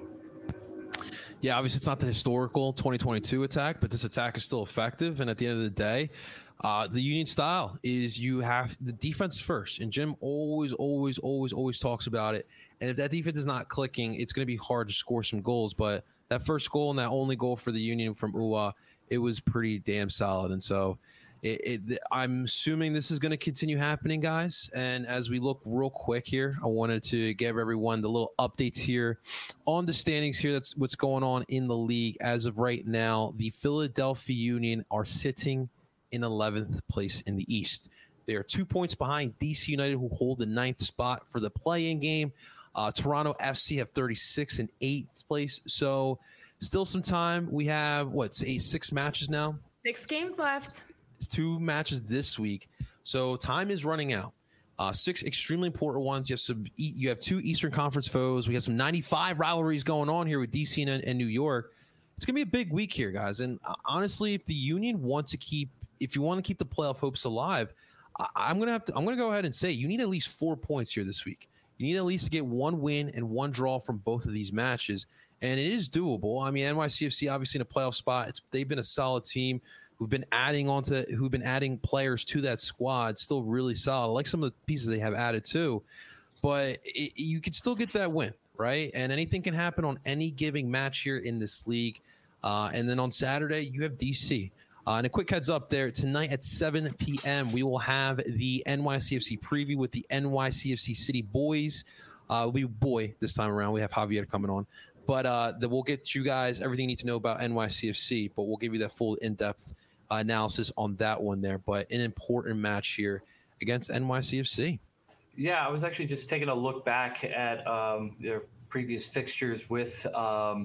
[SPEAKER 1] Yeah, obviously it's not the historical twenty twenty-two attack, but this attack is still effective. And at the end of the day, uh, the Union style is you have the defense first. And Jim always, always, always, always talks about it. And if that defense is not clicking, it's going to be hard to score some goals. But that first goal and that only goal for the Union from U A, it was pretty damn solid. And so It, it, I'm assuming this is going to continue happening, guys. And as we look real quick here, I wanted to give everyone the little updates here on the standings here. That's what's going on in the league. As of right now, the Philadelphia Union are sitting in eleventh place in the East. They are two points behind D C United, who hold the ninth spot for the play-in game. Uh, Toronto F C have thirty-six in eighth place. So still some time. We have, what, eight, six matches now?
[SPEAKER 2] Six games left.
[SPEAKER 1] Two matches this week, so time is running out. Uh, six extremely important ones. You have some. You have two Eastern Conference foes. We have some ninety-five rivalries going on here with D C and, and New York. It's gonna be a big week here, guys. And uh, honestly, if the Union want to keep, if you want to keep the playoff hopes alive, I, I'm gonna have to. I'm gonna go ahead and say you need at least four points here this week. You need at least to get one win and one draw from both of these matches, and it is doable. I mean, N Y C F C obviously in a playoff spot. It's they've been a solid team. Who've been adding on to, who've been adding players to that squad, still really solid. I like some of the pieces they have added too, but it, you can still get that win, right? And anything can happen on any given match here in this league. Uh, and then on Saturday, you have D C. Uh, and a quick heads up there, tonight at seven p.m., we will have the N Y C F C preview with the N Y C F C City Boys. Uh, it'll be boy this time around. We have Javier coming on. But uh, the, we'll get you guys everything you need to know about N Y C F C, but we'll give you that full in-depth Uh, analysis on that one there, but an important match here against N Y C F C.
[SPEAKER 3] Yeah, I was actually just taking a look back at um, their previous fixtures with um,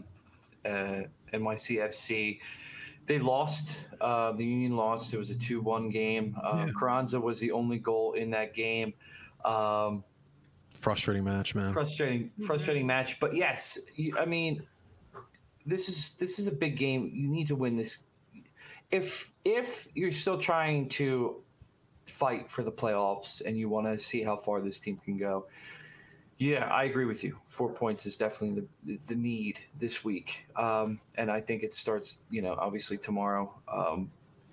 [SPEAKER 3] uh, N Y C F C. They lost. Uh, the Union lost. It was a two one game. Um, yeah. Carranza was the only goal in that game. Um,
[SPEAKER 1] frustrating match, man.
[SPEAKER 3] Frustrating, frustrating match. But yes, you, I mean, this is this is a big game. You need to win this. If if you're still trying to fight for the playoffs and you want to see how far this team can go, yeah, I agree with you. Four points is definitely the the need this week, um, and I think it starts, you know, obviously tomorrow um,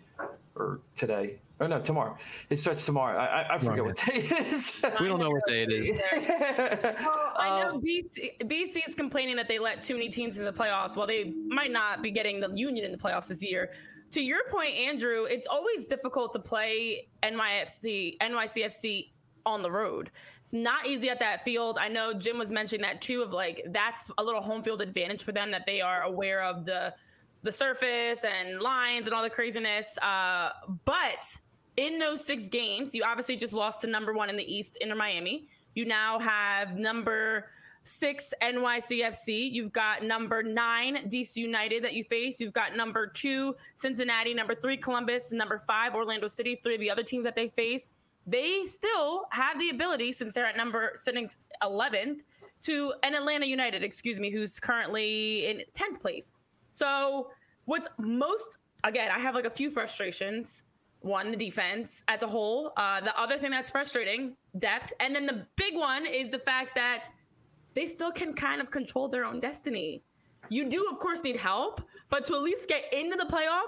[SPEAKER 3] or today. Oh no, tomorrow. It starts tomorrow. I, I, I forget right. what day it is.
[SPEAKER 1] We don't know what day it is.
[SPEAKER 2] Well, I know um, B C, B C is complaining that they let too many teams in the playoffs. Well, they might not be getting the Union in the playoffs this year. To your point, Andrew, it's always difficult to play N Y F C, N Y C F C on the road. It's not easy at that field. I know Jim was mentioning that too, of like, that's a little home field advantage for them, that they are aware of the the surface and lines and all the craziness. Uh, but in those six games, you obviously just lost to number one in the East, Inter Miami. You now have number six N Y C F C. You've got number nine D C United that you face. You've got number two Cincinnati, number three Columbus, and number five Orlando City. Three of the other teams that they face. They still have the ability, since they're at number sitting eleventh, to an Atlanta United, excuse me, who's currently in tenth place. So what's most, again, I have like a few frustrations. One, the defense as a whole. Uh, the other thing that's frustrating, depth. And then the big one is the fact that they still can kind of control their own destiny. You do, of course, need help, but to at least get into the playoffs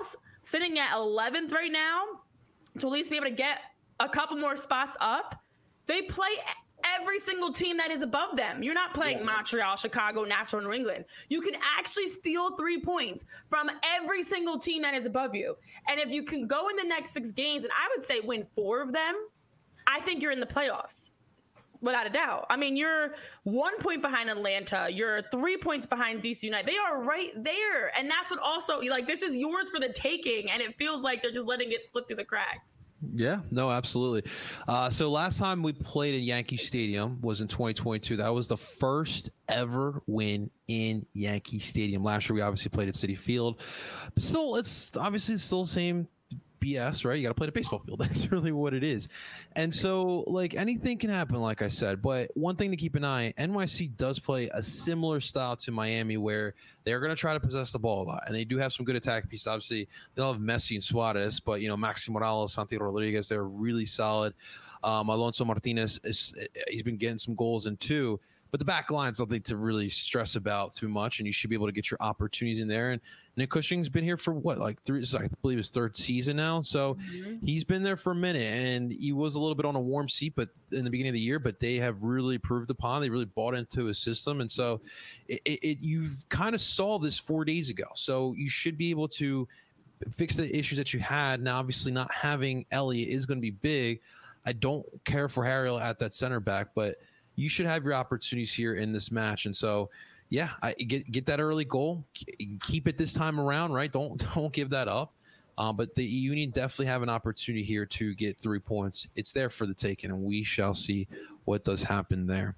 [SPEAKER 2] sitting at eleventh right now, to at least be able to get a couple more spots up. They play every single team that is above them. You're not playing yeah. Montreal, Chicago, Nashville, New England. You can actually steal three points from every single team that is above you. And if you can go in the next six games, and I would say win four of them, I think you're in the playoffs. Without a doubt. I mean, you're one point behind Atlanta. You're three points behind D C United. They are right there. And that's what also, like, this is yours for the taking. And it feels like they're just letting it slip through the cracks.
[SPEAKER 1] Yeah, no, absolutely. Uh, so last time we played at Yankee Stadium was in twenty twenty-two. That was the first ever win in Yankee Stadium. Last year, we obviously played at Citi Field. But still, it's obviously still the same B S, right? You got to play the baseball field. That's really what it is. And so, like, anything can happen, like I said. But one thing to keep an eye, N Y C does play a similar style to Miami where they're going to try to possess the ball a lot. And they do have some good attack pieces. Obviously, they don't have Messi and Suarez, but, you know, Maxi Morales, Santiago Rodriguez, they're really solid. Um, Alonso Martinez, is he's been getting some goals in too. But the back line's something to really stress about too much, and you should be able to get your opportunities in there. And Nick Cushing's been here for what, like three, I believe his third season now. So mm-hmm. he's been there for a minute, and he was a little bit on a warm seat, but in the beginning of the year. But they have really proved upon. They really bought into his system, and so it, it you've kind of solved this four days ago. So you should be able to fix the issues that you had. Now, obviously, not having Elliott is going to be big. I don't care for Harriel at that center back, but you should have your opportunities here in this match. And so, yeah, I get get that early goal, keep it this time around, right? Don't don't give that up. Um, but the Union definitely have an opportunity here to get three points. It's there for the taking, and we shall see what does happen there.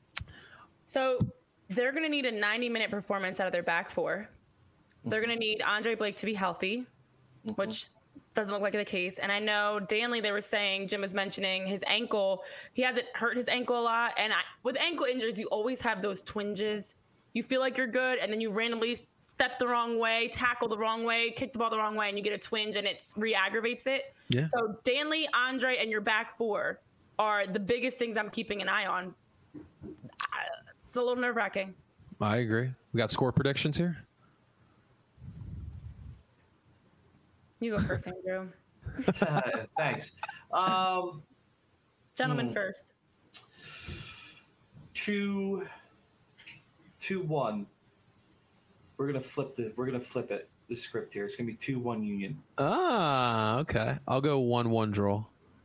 [SPEAKER 2] So they're going to need a ninety-minute performance out of their back four. They're going to need Andre Blake to be healthy, mm-hmm. which doesn't look like the case. And I know Danley, they were saying, Jim was mentioning his ankle. He hasn't hurt his ankle a lot. And I, with ankle injuries, you always have those twinges. You feel like you're good, and then you randomly step the wrong way, tackle the wrong way, kick the ball the wrong way, and you get a twinge, and it re-aggravates it.
[SPEAKER 1] Yeah.
[SPEAKER 2] So Danley, Andre, and your back four are the biggest things I'm keeping an eye on. It's a little nerve-wracking.
[SPEAKER 1] I agree. We got score predictions here.
[SPEAKER 2] You go first, Andrew.
[SPEAKER 3] uh, thanks. Um,
[SPEAKER 2] Gentlemen
[SPEAKER 3] hmm.
[SPEAKER 2] first.
[SPEAKER 3] Two, two, one. We're gonna flip the. We're gonna flip it. The script here. It's gonna be two, one Union.
[SPEAKER 1] Ah, okay. I'll go one, one draw.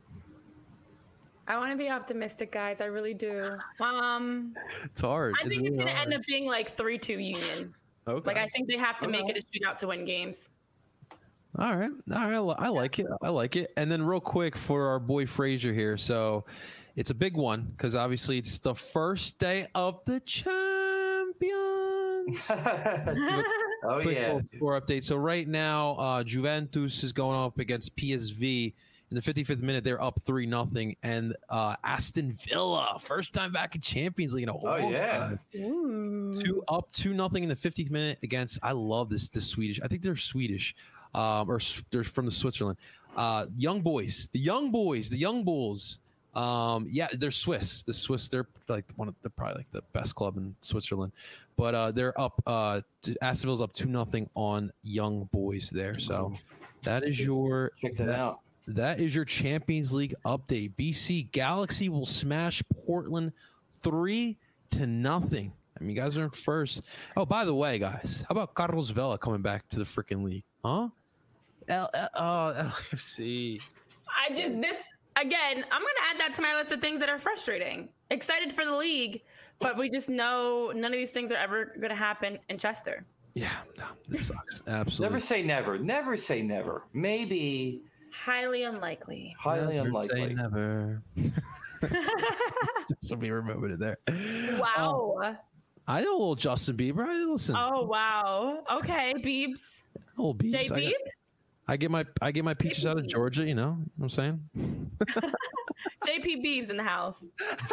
[SPEAKER 2] I want to be optimistic, guys. I really do. Um,
[SPEAKER 1] it's hard.
[SPEAKER 2] I think
[SPEAKER 1] it's,
[SPEAKER 2] it's
[SPEAKER 1] really
[SPEAKER 2] gonna
[SPEAKER 1] hard.
[SPEAKER 2] end up being like three, two Union.
[SPEAKER 1] Okay.
[SPEAKER 2] Like I think they have to
[SPEAKER 3] okay.
[SPEAKER 2] make it a shootout to win games.
[SPEAKER 1] All right. All right. I like it. I like it. And then real quick for our boy Frazier here. So it's a big one because obviously it's the first day of the champions.
[SPEAKER 3] oh,
[SPEAKER 1] quick
[SPEAKER 3] yeah.
[SPEAKER 1] Score update. So right now, uh, Juventus is going up against P S V. In the fifty-fifth minute, they're up three nothing. And uh, Aston Villa, first time back in Champions League in a whole
[SPEAKER 3] Oh, yeah.
[SPEAKER 2] Ooh.
[SPEAKER 1] Two up two nothing in the fiftieth minute against, I love this, this Swedish. I think they're Swedish. Um, or they're from the Switzerland. Uh, young boys, the young boys, the young bulls. Um, yeah, they're Swiss. The Swiss, they're like one of the probably like the best club in Switzerland. But uh, they're up. Uh, Aston Villa's up two nothing on young boys there. So that is your
[SPEAKER 3] check that,
[SPEAKER 1] that
[SPEAKER 3] out.
[SPEAKER 1] That is your Champions League update. B C Galaxy will smash Portland three to nothing. I mean, you guys are in first. Oh, by the way, guys, how about Carlos Vela coming back to the freaking league? Huh? L- L- oh, L F C.
[SPEAKER 2] I just this again. I'm gonna add that to my list of things that are frustrating. Excited for the league, but we just know none of these things are ever gonna happen in Chester.
[SPEAKER 1] Yeah, no, that sucks. Absolutely.
[SPEAKER 3] Never say never. Never say never. Maybe.
[SPEAKER 2] Highly unlikely.
[SPEAKER 3] Highly
[SPEAKER 1] never
[SPEAKER 3] unlikely.
[SPEAKER 1] Say never. Just so we remember it there.
[SPEAKER 2] Wow.
[SPEAKER 1] Um, I know a little Justin Bieber. I listen.
[SPEAKER 2] Oh wow. Okay, Biebs.
[SPEAKER 1] Oh, Biebs.
[SPEAKER 2] Jay
[SPEAKER 1] I
[SPEAKER 2] Biebs.
[SPEAKER 1] get, I get my I get my peaches out of Georgia. You know what I'm saying?
[SPEAKER 2] J P Biebs in the house.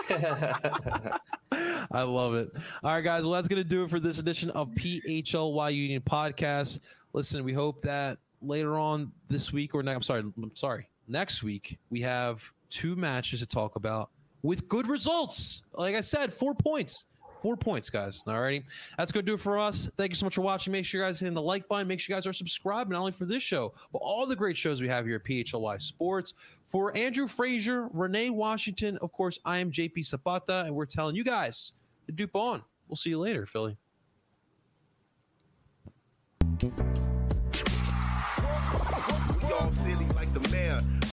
[SPEAKER 1] I love it. All right, guys. Well, that's going to do it for this edition of P H L Y Union Podcast. Listen, we hope that later on this week or next, I'm sorry, I'm sorry, next week, we have two matches to talk about with good results. Like I said, four points. Four points, guys. All righty. That's going to do it for us. Thank you so much for watching. Make sure you guys hit the like button. Make sure you guys are subscribed, not only for this show, but all the great shows we have here at P H L Y Sports. For Andrew Frazier, Renee Washington, of course, I am J P Zapata, and we're telling you guys to dupe on. We'll see you later, Philly.
[SPEAKER 4] We all silly like the mayor.